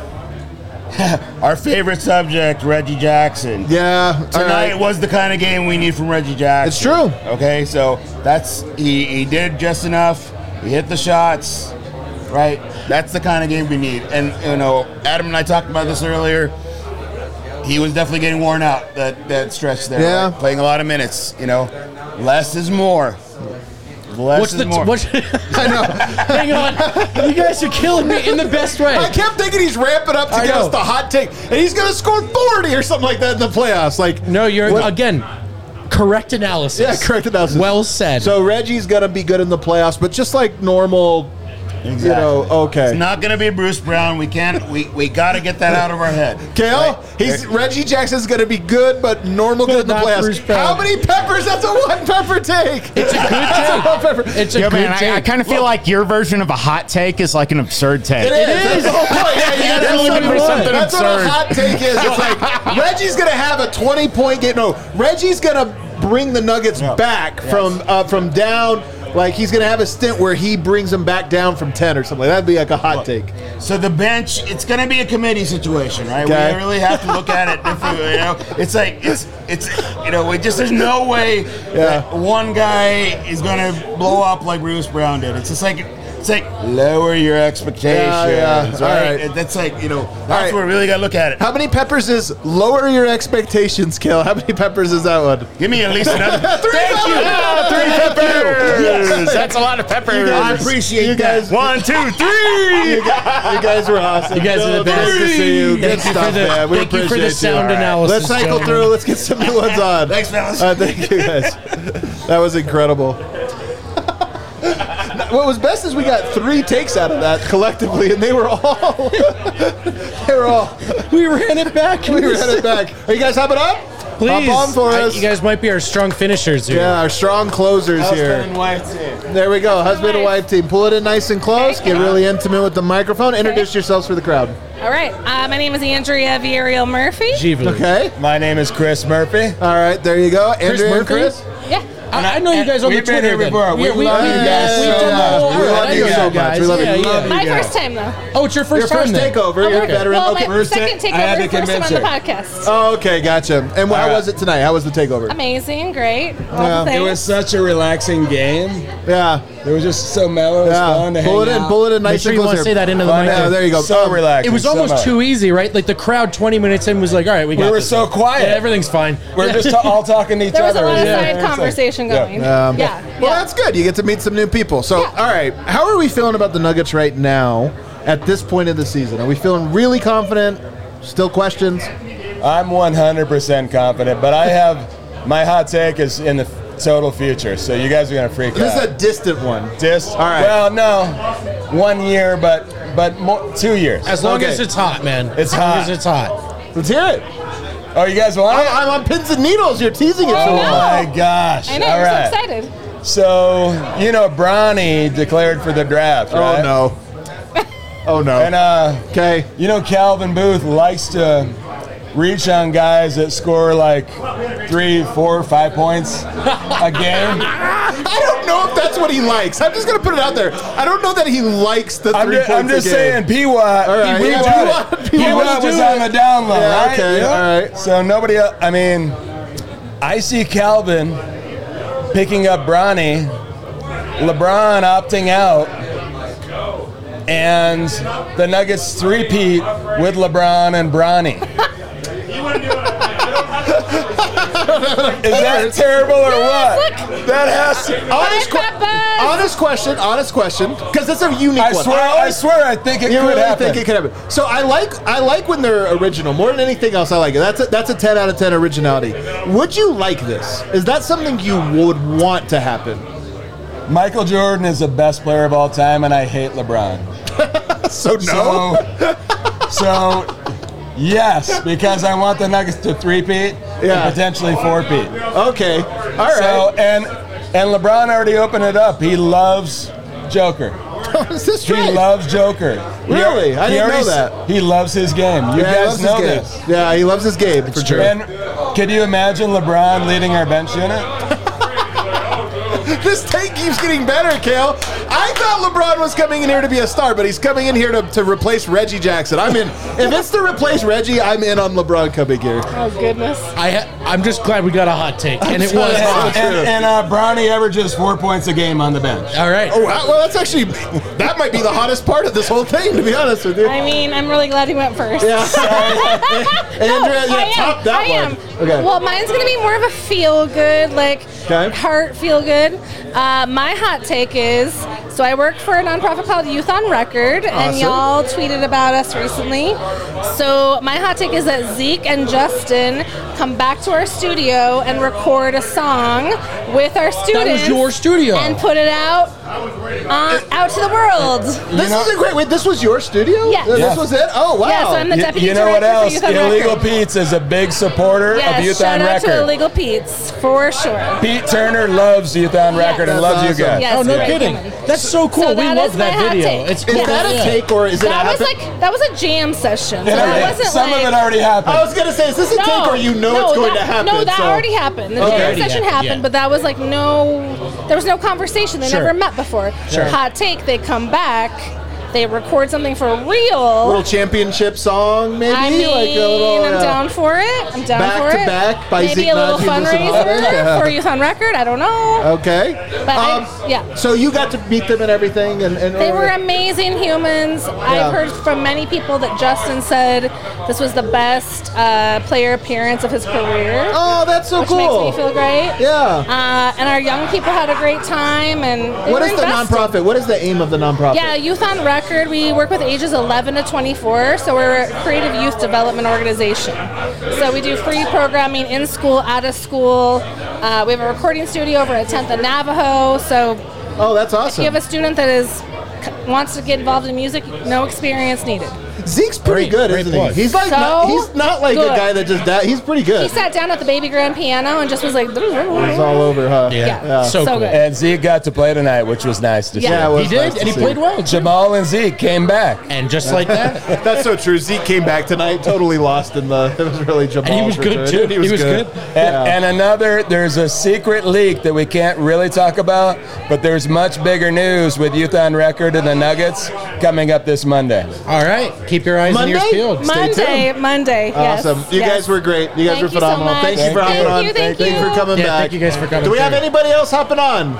Our favorite subject, Reggie Jackson. Yeah. all Tonight right. was the kind of game we need from Reggie Jackson. It's true. Okay, so that's he, he did just enough. He hit the shots, right? That's the kind of game we need. And you know, Adam and I talked about this earlier. He was definitely getting worn out that that stretch there. Yeah. right? Playing a lot of minutes. You know, less is more. Less What's is the more. what's, I know. Hang on, you guys are killing me in the best way. I kept thinking he's ramping up to I give know. us the hot take, and he's going to score forty or something like that in the playoffs. Like, No, you're What- again. Correct analysis. yeah, correct analysis. Well said. So Reggie's going to be good in the playoffs, but just like normal, you know, okay. It's not going to be Bruce Brown. We can't. We, we got to get that out of our head. Kale, Right? he's Reggie Jackson's going to be good, but normal good in the not Bruce playoffs. Brown. How many peppers? That's a one pepper take. it's a good That's a take. one pepper. It's a Yo, good man, take. I, I kind of feel like your version of a hot take is like an absurd take. It is. That's the whole point. Yeah, you Yeah, gotta that's do looking something for fun. something That's what a absurd. hot take is. It's like Reggie's gonna have a twenty point game. No, Reggie's gonna bring the Nuggets back from uh, from down Like he's gonna have a stint where he brings them back down from ten or something. That'd be like a hot take. So the bench, it's going to be a committee situation, right? Okay. We really have to look at it differently. You know, it's like it's it's you know, we just there's no way that one guy is going to blow up like Bruce Brown did. It's just like. It's like lower your expectations, Yeah, yeah. right? All right. And that's like you know that's right. where we really got to look at it. How many peppers is lower your expectations, Kale? How many peppers is that one? Give me at least another. Three Thank you. peppers! Three peppers! Yes, that's a lot of peppers. I appreciate you that. guys- One, two, three. You guys, you guys were awesome. You guys are the best. Nice to see you. Good Thank you stuff, for the- man. We thank you for the appreciate sound All analysis, Let's cycle gentlemen. through. Let's get some new ones on. Thanks, fellas. Uh, thank you, guys. That was incredible. What was best is we got three takes out of that collectively, and they were all. they were all. We ran it back. We ran it back. Are you guys hopping up? Please. Hop on for I- us. you guys might be our strong finishers here. Yeah, our strong closers Husband here. and wife team. There we go, husband and wife team. Pull it in nice and close. Get really intimate with the microphone. Introduce yourselves for the crowd. All right. Uh, my name is Andrea Vieriel Murphy. Okay. My name is Chris Murphy. All right, there you go. Chris Andrea and Murphy? Chris. Yeah. I, I know you guys on the We've been Twitter. here then. before. We Yeah, we, love we, you we, guys we've so done the much. whole- We all right, love I you know so much. guys. We love you. Yeah, We yeah. love you. My guys. first time, though. Oh, it's your first Your time first then. takeover. You're a Okay. veteran. Well, Okay. my First second ta- I had takeover, to first time on convince the her. podcast. Oh, okay, gotcha. And how All right. was it tonight? How was the takeover? Amazing, great. All Yeah. the It things. was such a relaxing game. Yeah. It was just so mellow. It was fun to Yeah. Pull it hang in. out. Pull it in Make nice sure and you close. want to say here. that into the Fun. mic. Yeah, there you go. So Um, relaxing. It was so almost much. too easy, right? Like the crowd twenty minutes in was like, all right, we got We were this. so quiet. Yeah, everything's fine. We're just ta- all talking to each There was other. a lot of Yeah. side It's like- conversation Yeah. going. Um, yeah. Well, yeah. that's good. You get to meet some new people. So, Yeah. all right, how are we feeling about the Nuggets right now at this point of the season? Are we feeling really confident? Still questions? I'm one hundred percent confident, but I have my hot take is in the total future. So you guys are gonna freak This out. is a distant one. Dis- All right. Well, no, one year, but but more, two years. As long Okay. as it's hot, man. It's as long hot. as it's hot. Let's hear it. Oh, you guys want it? I'm, I'm on pins and needles. You're teasing it so Oh well. my gosh! I know, All you're right. so excited. So you know, Bronny declared for the draft, right? Oh, no. Oh, no. And uh, Okay. you know, Calvin Booth likes to reach on guys that score like three, four, five points a game. I don't know if that's what he likes. I'm just going to put it out there. I don't know that he likes the I'm three just, points I'm just a game. saying, P W A T. All right, P yeah, W A T P W A T P W A T was do on it. the down low, Yeah, right? okay, all right. So nobody else, I mean, I see Calvin picking up Bronny, LeBron opting out, and the Nuggets three-peat with LeBron and Bronny. Is that terrible or what? That has to. Honest, que- honest question, honest question, because it's a unique I one. swear, I swear, I think it you could really happen. think it could happen. So I like I like when they're original more than anything else. I like it. That's a, that's a ten out of ten originality. Would you like this? Is that something you would want to happen? Michael Jordan is the best player of all time, and I hate LeBron. So no. So, so yes, because I want the Nuggets to three-peat Yeah. and potentially four-peat. Okay. All right. So and and LeBron already opened it up. He loves Joker. Is this He right? loves Joker. He Really? al- I he didn't already know s- that. He loves his game. You yeah, he guys loves know his game. this. Yeah, he loves his game for sure. And can you imagine LeBron leading our bench unit? This take keeps getting better, Kale. I thought LeBron was coming in here to be a star, but he's coming in here to, to replace Reggie Jackson. I'm in. If it's to replace Reggie, I'm in on LeBron coming here. Oh, goodness. I ha- I'm just glad we got a hot take, and it sorry. was hot. and and uh, Bronny averages four points a game on the bench. All right. Oh, wow, well, that's actually that might be the hottest part of this whole thing, to be honest with you. I mean, I'm really glad he went first. Yeah. Andrea, no, yeah, I am. top that I one. am. Okay. Well, mine's going to be more of a feel good, like Okay. heart feel good. Uh, my hot take is so I work for a nonprofit called Youth on Record, and Awesome. y'all tweeted about us recently. So my hot take is that Zeke and Justin come back to our studio and record a song with our students. your studio. And put it out uh, out to the world. This is a great. Wait, this was your studio? Yeah. This Yeah. was it. Oh wow. Yeah, so I'm the You, deputy you know what director for else? Youth on Illegal Record. Pete's is a big supporter Yes, of Youth shout on out to Record. Illegal Pete's for sure. Pete Pete Turner loves Youth on Record and Yes. loves That's you guys. Yes, Oh, no great kidding. human. That's so cool. So we that love is my that hot video. take. It's Is cool. that a Yeah. take or is it That a was happen? like that was a jam session. So Yeah, that yeah. wasn't Some like, of it already happened. I was gonna say, is this a take or you know no, it's going that, to happen? No, that so- already happened. The Okay. jam Already session happened, happened, yeah. but that was like no, there was no conversation. They Sure. never met before. Sure. Hot take. They come back. They record something for A real. little championship song, maybe? I mean, like a little, I'm yeah. down for it. I'm down Back for to it. back by Maybe Zeke a little Naji and Listen fundraiser Holiday. Yeah. for Youth on Record. I don't know. Okay. But I- Um, yeah. So you got to meet them and everything, and, and They were amazing humans. Yeah. I've heard from many people that Justin said this was the best uh, player appearance of his career. Oh, that's so which cool. makes me feel great. Yeah. Uh, and our young people had a great time. And they What were is the invested. nonprofit? What is the aim of the nonprofit? Yeah, Youth on Record. We work with ages eleven to twenty-four, so we're a creative youth development organization. So we do free programming in school, out of school. Uh, we have a recording studio over at tenth and Navajo. So, oh, that's awesome. If you have a student that is wants to get involved in music, no experience needed. Zeke's pretty Great- good, great isn't plug. he? He's like So not, he's not like a good. guy that just da- he's pretty He good. sat down at the baby grand piano and just was like, He's all over, huh? Yeah. Yeah. So, So cool. good. And Zeke got to play tonight, which was nice to Yeah. see. Yeah, it was He did, nice to and he see. played well. Jamal and Zeke came back. And just like that, That's so true. Zeke came back tonight, totally lost in the. It was really Jamal. and he was good too. He was, good. And, Yeah. and another, there's a secret leak that we can't really talk about, but there's much bigger news with Youth on Record and the Nuggets coming up this Monday. all right. Keep your eyes and ears Monday? peeled. Stay Monday, Monday. Yes. Awesome. You yes. guys were great. You guys Thank were you so phenomenal. much. Thank you for Thank hopping on. you, thank you for you. coming Yeah, back. thank you guys for coming Do we have through. anybody else hopping on?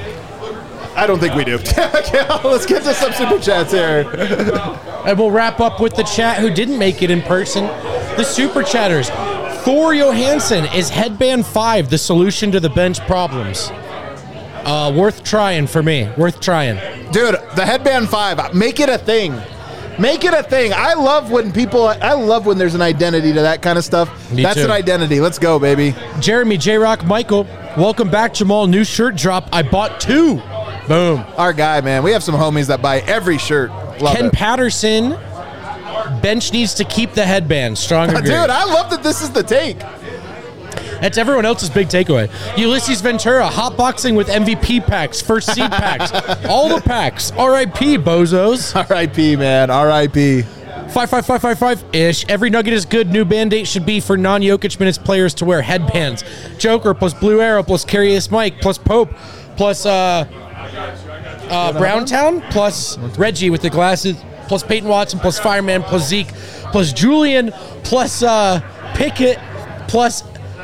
I don't think we do. Okay, let's get to some super chats here. And we'll wrap up with the chat who didn't make it in person. The super chatters. Thor Johansson, is headband five the solution to the bench problems? Uh, worth trying for me. Worth trying. Dude, the headband five, make it a thing. Make it a thing. I love when people, I love when there's an identity to that kind of stuff. Me That's too. an identity. Let's go, baby. Jeremy, J-Rock, Michael, welcome back, Jamal. New shirt drop. I bought two. Boom. Our guy, man. We have some homies that buy every shirt. Love Ken it. Patterson, bench needs to keep the headband. Strong agree. Dude, I love that this is the take. That's everyone else's big takeaway. Ulysses Ventura, hotboxing with M V P packs, first seed packs, all the packs. R I P, bozos. R I P, man. R I P. Five, five, five, five, five ish. Every nugget is good. New band-aid should be for non-Jokic minutes players to wear headbands. Joker plus Blue Arrow plus Curious Mike plus Pope plus uh, uh, Browntown plus Reggie with the glasses plus Peyton Watson plus Fireman plus Zeke plus Julian plus uh, Pickett plus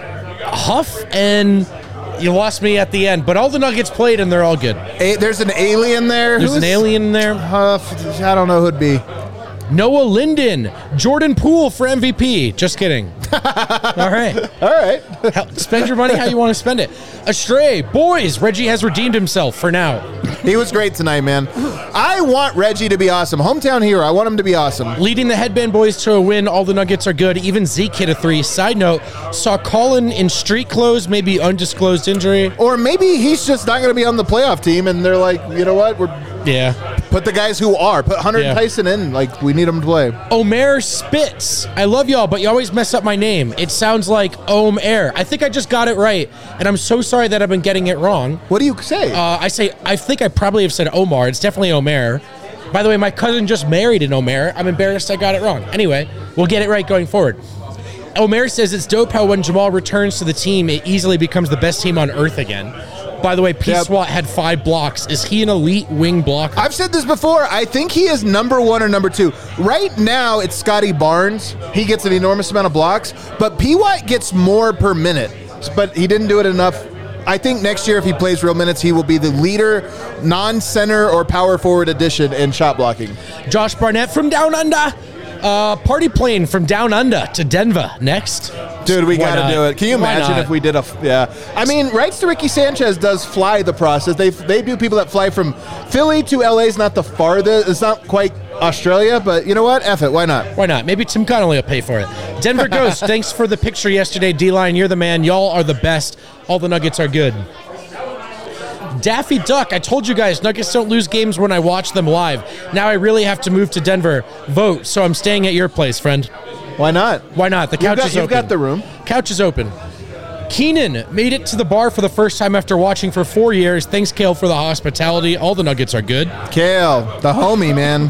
Huff, and you lost me at the end. But all the Nuggets played, and they're all good. A- there's an alien there. There's Who's- an alien in there. Huff, I don't know who'd be. Noah Linden, Jordan Poole for M V P. Just kidding. All right. All right. Hell, spend your money how you want to spend it. Astray, boys, Reggie has redeemed himself for now. He was great tonight, man. I want Reggie to be awesome. Hometown hero. I want him to be awesome. Leading the Headband Boys to a win. All the Nuggets are good. Even Zeke hit a three. Side note, saw Colin in street clothes, maybe undisclosed injury. Or maybe he's just not going to be on the playoff team, and they're like, you know what? We're Yeah. put the guys who are. Put Hunter Yeah. Tyson in. Like, we need them to play. Omer Spitz. I love y'all, but you always mess up my name. It sounds like Om Air. I think I just got it right, and I'm so sorry that I've been getting it wrong. What do you say? Uh, I say, I think I probably have said Omar. It's definitely Omer. By the way, my cousin just married an Omer. I'm embarrassed I got it wrong. Anyway, we'll get it right going forward. Omer says it's dope how when Jamal returns to the team, it easily becomes the best team on earth again. By the way, P. Yep. Swat had five blocks. Is he an elite wing blocker? I've said this before. I think he is number one or number two. Right now, it's Scotty Barnes. He gets an enormous amount of blocks, but P. Watt gets more per minute, but he didn't do it enough. I think next year, if he plays real minutes, he will be the leader, non-center or power forward addition in shot blocking. Josh Barnett from Down Under. Uh, party plane from Down Under to Denver next. Dude, we Why got not? to do it. Can you Why imagine not? if we did a? Yeah, I mean, Rights to Ricky Sanchez does fly the process. They they do people that fly from Philly to L A is not the farthest. It's not quite Australia, but you know what? F it. Why not? Why not? Maybe Tim Connolly will pay for it. Denver Ghost, thanks for the picture yesterday, D-Line. You're the man. Y'all are the best. All the Nuggets are good. Daffy Duck, I told you guys, Nuggets don't lose games when I watch them live. Now I really have to move to Denver. Vote, so I'm staying at your place, friend. Why not? Why not? The couch You've got, is you've open. got the room. Couch is open. Keenan made it to the bar for the first time after watching for four years. Thanks, Kale, for the hospitality. All the Nuggets are good. Kale, the homie, man.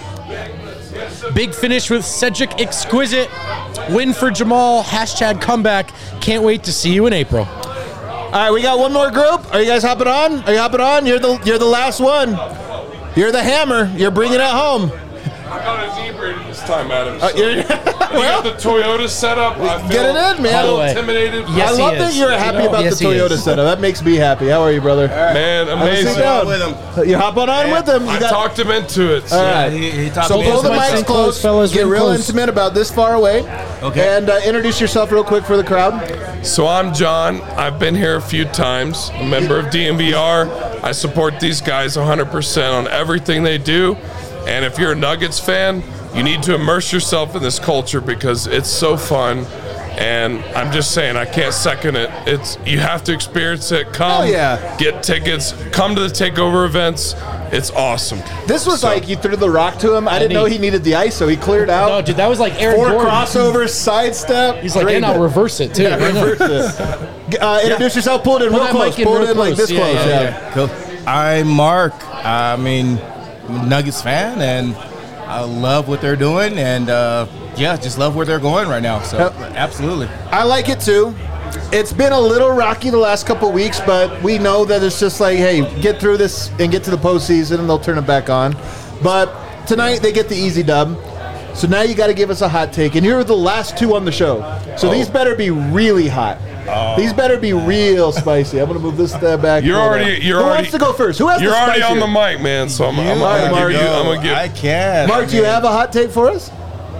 Big finish with Cedric Exquisite. Win for Jamal. Hashtag comeback. Can't wait to see you in April. All right, we got one more group. Are you guys hopping on? Are you hopping on? You're the you're the last one. You're the hammer. You're bringing it home. I got a zebra this time, Adam. Uh, you're, you got the Toyota setup. I feel Get it in, man. a little intimidated. I love that you're happy about Yes, the he Toyota is. setup. That makes me happy. How are you, brother? Man, Have a seat amazing. down. With him. You hopping on with him. You I got- talked him into it. All right. So pull the mics close, fellas. Get real intimate about this far away. Okay. And uh, introduce yourself real quick for the crowd. So I'm John. I've been here a few times. A member of D M V R. I support these guys one hundred percent on everything they do. And if you're a Nuggets fan, you need to immerse yourself in this culture because it's so fun. And I'm just saying, I can't second it. It's you have to experience it. Come, Hell yeah. get tickets. Come to the takeover events. It's awesome. This was like you threw the rock to him. I didn't he- know he needed the ice, so he cleared out. No, dude, that was like Aaron Four Gordon. crossovers, sidestep. He's like, Great and I'll bit. reverse it, too. Yeah, I know. reverse it. Uh, introduce yourself. Pull it in Pull real that close. mic in Pull it real in like close. this Yeah, close. yeah, Yeah. Cool. I'm Mark. I mean, I'm a Nuggets fan, and I love what they're doing, and uh, yeah, just love where they're going right now. So, Yep. absolutely. I like it too. It's been a little rocky the last couple weeks, but we know that it's just like, hey, get through this and get to the postseason, and they'll turn it back on. But tonight they get the easy dub. So now you got to give us a hot take, and you're the last two on the show. So Oh. these better be really hot. These better be real spicy. I'm gonna move this uh, back. You're Hold already. on. You're Who already. wants to go first? Who has You're the already on spicier? the mic, man. So I'm. I'm, I'm, All right, gonna Mark. give you. I'm gonna give. I can. Mark, do you have a hot take for us?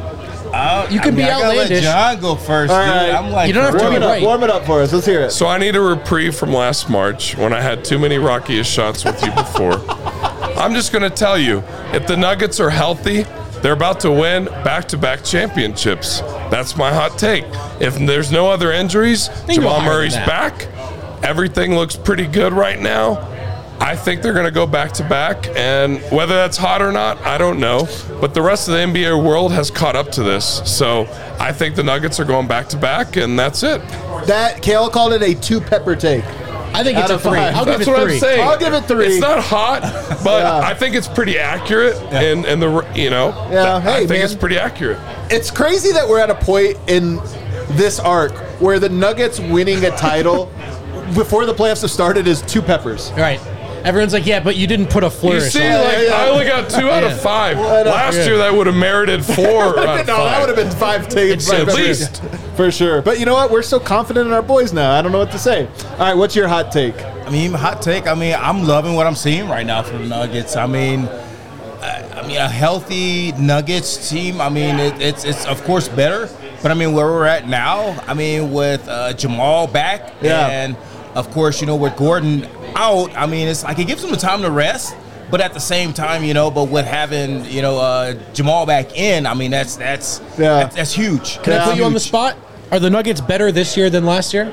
Uh, You can I mean, be I gotta outlandish. Let John go first. All dude. right. I'm like, You don't have to Warm be it up. right. Warm it up for us. Let's hear it. So I need a reprieve from last March when I had too many rockiest shots with you before. I'm just going to tell you, if the Nuggets are healthy, they're about to win back-to-back championships. That's my hot take. If there's no other injuries, They can go Jamal higher than Murray's that. back. Everything looks pretty good right now. I think they're going to go back-to-back, and whether that's hot or not, I don't know. But the rest of the N B A world has caught up to this. So I think the Nuggets are going back-to-back, and that's it. That Kale called it a two pepper take. I think it's Out a of three. five. I'll That's give it what three. I'm saying. I'll give it three. It's not hot, but Yeah. I think it's pretty accurate, and and the you know, Yeah, I hey, think man. it's pretty accurate. It's crazy that we're at a point in this arc where the Nuggets winning a title before the playoffs have started is two peppers. Right. Everyone's like, yeah, but you didn't put a You flourish see, on it. like yeah. I only got two out Yeah. of five. I know. Last Yeah. year, that would have merited four out No, of that five. would have been five takes At least. for sure. But you know what? We're so confident in our boys now. I don't know what to say. All right, what's your hot take? I mean, hot take. I mean, I'm loving what I'm seeing right now from the Nuggets. I mean, I, I mean, a healthy Nuggets team. I mean, it, it's it's of course better, but I mean, where we're at now. I mean, with uh, Jamal back, Yeah. and of course, you know, with Gordon out. I mean, it's like it gives them the time to rest. But at the same time, you know, but with having you know uh, Jamal back in, I mean, that's that's Yeah. that's, that's huge. Can I That's put you on the huge. spot? Are the Nuggets better this year than last year?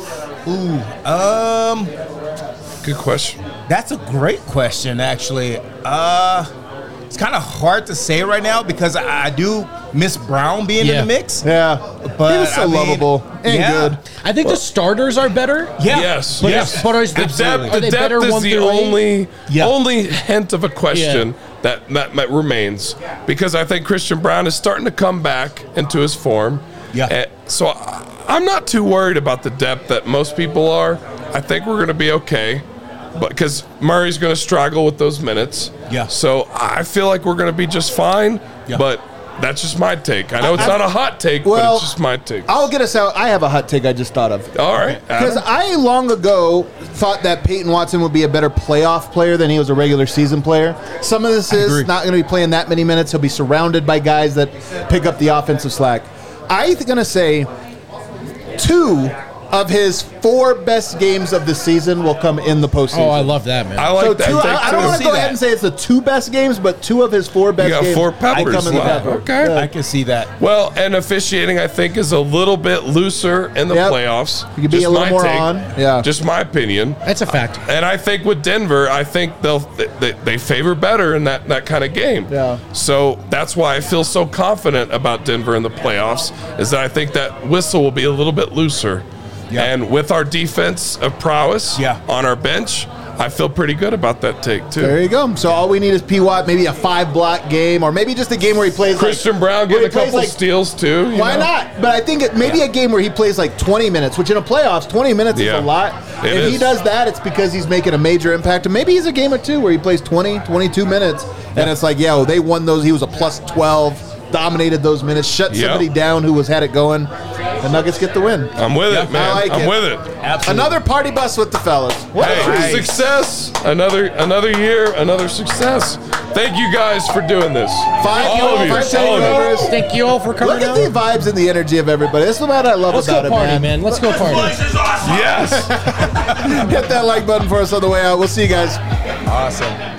Ooh, um. Good question. That's a great question, actually. Uh, it's kind of hard to say right now because I, I do miss Brown being Yeah. in the mix. Yeah. But he was so I mean, lovable and yeah. good. I think the starters are better. Yeah. Yes, But- yes. but is the the- depth, are the they depth better is one the through eight? only Yeah. only hint of a question that, that that remains because I think Christian Brown is starting to come back into his form. Yeah. Eh, so I, I'm not too worried about the depth that most people are. I think we're going to be okay. But because Murray's going to struggle with those minutes. Yeah. So I feel like we're going to be just fine. Yeah. But that's just my take. I know it's I- not a hot take, but Well, it's just my take. I'll get us out. I have a hot take I just thought of. All right. Because Adam. I long ago thought that Peyton Watson would be a better playoff player than he was a regular season player. Some of this is agree. not going to be playing that many minutes. He'll be surrounded by guys that pick up the offensive slack. I'm going to say two of his four best games of the season will come in the postseason. Oh, I love that, man. I like so that two, take I, I too. don't want See to go that. ahead and say it's the two best games, but two of his four best got games four I peppers. come in the Wow. pepper. Okay. Yeah. I can see that. Well, and officiating, I think, is a little bit looser in the Yep. playoffs. You could be Just a little my more take. on. Yeah. Just my opinion. That's a fact. And I think with Denver, I think they'll they, they favor better in that, that kind of game. Yeah. So that's why I feel so confident about Denver in the playoffs, is that I think that whistle will be a little bit looser. Yeah. And with our defense of prowess yeah. on our bench, I feel pretty good about that take, too. There you go. So all we need is P. Watt, maybe a five-block game, or maybe just a game where he plays Christian like, Brown getting a couple like, steals, too. Why know? not? But I think it, maybe yeah. a game where he plays like twenty minutes, which in a playoffs, twenty minutes yeah. is a lot. It if is. he does that, it's because he's making a major impact. And maybe he's a game or two where he plays twenty, twenty-two minutes, yeah. and it's like, yo, they won those. He was a plus twelve. Dominated those minutes, shut yep. somebody down who was had it going. The Nuggets get the win. I'm with yeah, it, man. I like I'm it. with it. Absolutely. Another party bus with the fellas. What hey, nice. success. Another another year, another success. Thank you guys for doing this. Five all of you. five All of you. Thank you all for coming Look at out. the vibes and the energy of everybody. This is what I love Let's about go it, party, man. man. Let's go party. Yes. Hit that like button for us on the way out. We'll see you guys. Awesome.